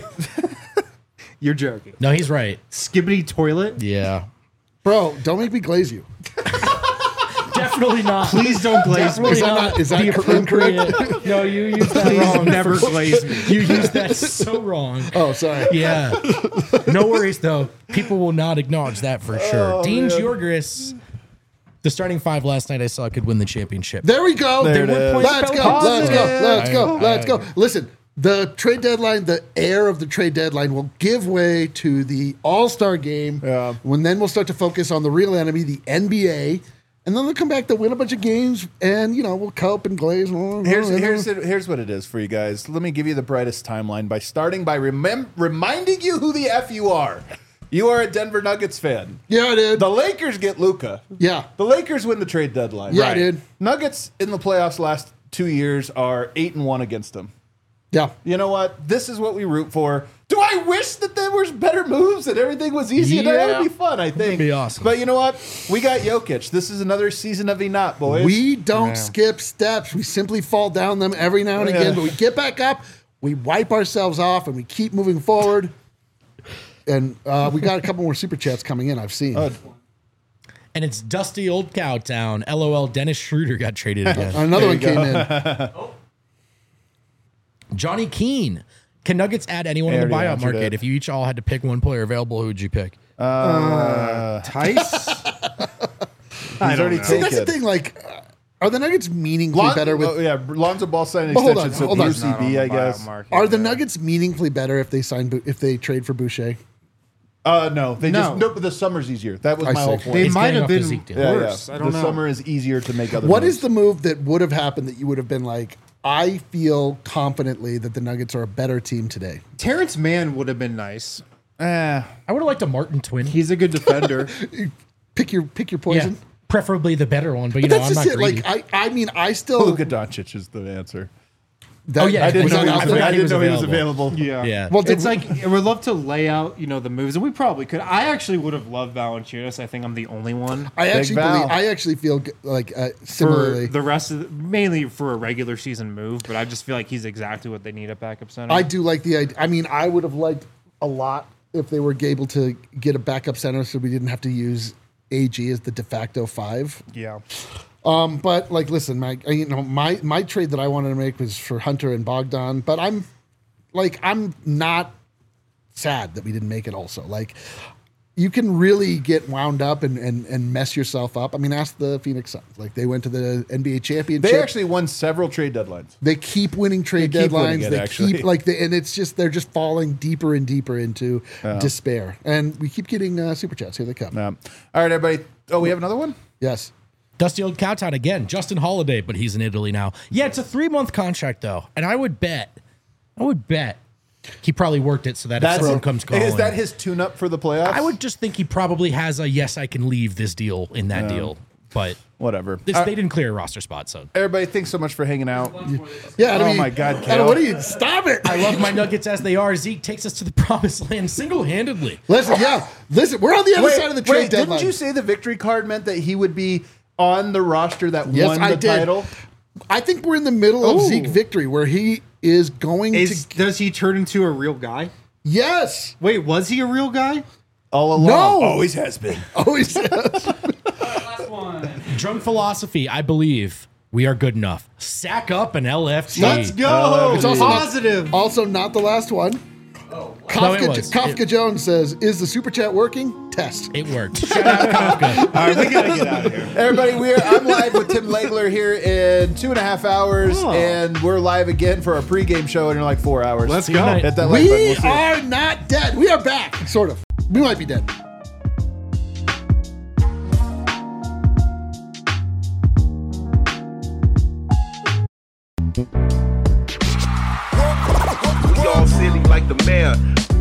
You're joking. No, he's right. Skibbity toilet? Yeah. Bro, don't make me glaze you. Definitely not. Please don't glaze me. Is that the incorrect? appropriate. No, you used that Please wrong. never glaze me. You used that so wrong. Oh, sorry. Yeah. No worries, though. People will not acknowledge that for sure. Dean Jorgris, the starting five last night I saw could win the championship. There we go. There it is. Let's go. Positive. Let's go. Listen, the trade deadline, the air of the trade deadline will give way to the All-Star game. Yeah. When then we'll start to focus on the real enemy, the NBA. And then they'll come back to win a bunch of games, and we'll cope and glaze. Here's what it is for you guys. Let me give you the brightest timeline by starting by reminding you who the F you are. You are a Denver Nuggets fan. Yeah, dude. The Lakers get Luka. Yeah. The Lakers win the trade deadline. Yeah, dude. Nuggets in the playoffs last 2 years are 8-1 against them. Yeah. You know what? This is what we root for. Do I wish that there was better moves and everything was easy? Yeah. That would be fun, I think. be awesome. But you know what? We got Jokic. This is another season of Enot, boys. We don't skip steps. We simply fall down them every now and Yeah. again, but we get back up, we wipe ourselves off, and we keep moving forward. And we got a couple more super chats coming in, I've seen. And it's dusty old Cowtown. LOL, Dennis Schroeder got traded again. Another one came in. Johnny Keene. Can Nuggets add anyone in the already buyout answered market? it. If you each all had to pick one player available, who would you pick? Tice? He's already See, taken. that's the thing. Like, are the Nuggets meaningfully better with? Lonzo Ball signed an But hold extension, on, so hold on. UCB, I guess. Are the Nuggets meaningfully better if they trade for Boucher? No, No. but the summer's easier. That was I my whole see. point. They He's might getting have off been physique deal. worse. I don't the know. summer is easier to make other What moves. is the move that would have happened that you would have been like, I feel confidently that the Nuggets are a better team today? Terrence Mann would have been nice. I would have liked a Martin twin. He's a good defender. Pick your Yeah, poison. preferably the better one, but But I'm that's not just it. greedy. Like, I mean, I still. Luka Doncic is the answer. That, Oh, yeah, I didn't was know that he out was, there? forgot I he didn't was know he was available. available. Yeah. Well, It's like, I would love to lay out, the moves, and we probably could. I actually would have loved Valanciunas. I think I'm the only one. I actually Val. believe. I actually feel like For similarly. the rest of mainly for a regular season move, but I just feel like he's exactly what they need at backup center. I do like the idea. I mean, I would have liked a lot if they were able to get a backup center, so we didn't have to use AG as the de facto 5. Yeah. But like, listen, my trade that I wanted to make was for Hunter and Bogdan, but I'm not sad that we didn't make it. Also, like, you can really get wound up and mess yourself up. I mean, ask the Phoenix Suns. Like, they went to the NBA championship. They actually won several trade deadlines. They keep winning trade They keep winning deadlines. it, They actually. keep and it's just they're just falling deeper and deeper into despair. And we keep getting super chats. Here they come. All right, everybody. Oh, we have another one? Yes. Dusty Old Cowtown again. Justin Holiday, but he's in Italy now. Yeah, it's a 3-month contract though, and I would bet he probably worked it so that if someone comes calling, is that his tune-up for the playoffs? I would just think he probably has a yes, I can leave this deal in that deal, but whatever. they didn't clear a roster spot, so. Everybody, thanks so much for hanging out. Yeah. Oh my God, Kale. Adam, what are you? Stop it. I love my Nuggets as they are. Zeke takes us to the promised land single-handedly. Listen, we're on the other side of the trade deadline. Didn't you say the victory card meant that he would be on the roster that Yes, won I the did. title? I think we're in the middle of Zeke victory where he is going to. Does he turn into a real guy? Yes. Wait, was he a real guy? All along. No. Always has been. Always. Last one. Drunk philosophy, I believe we are good enough. Sack up an LFG. Let's go. It's also Positive. Also, not the last one. No, it Kafka, was. Kafka Jones says, "Is the super chat working?" Test. It worked. Shout out Kafka. All right, we gotta get out of here. Everybody, I'm live with Tim Legler here in 2.5 hours, and we're live again for our pregame show in like 4 hours. Let's See you go. tonight. Hit that like button. We We'll see you. are not dead. We are back. Sort of. We might be dead. We all silly like the mayor.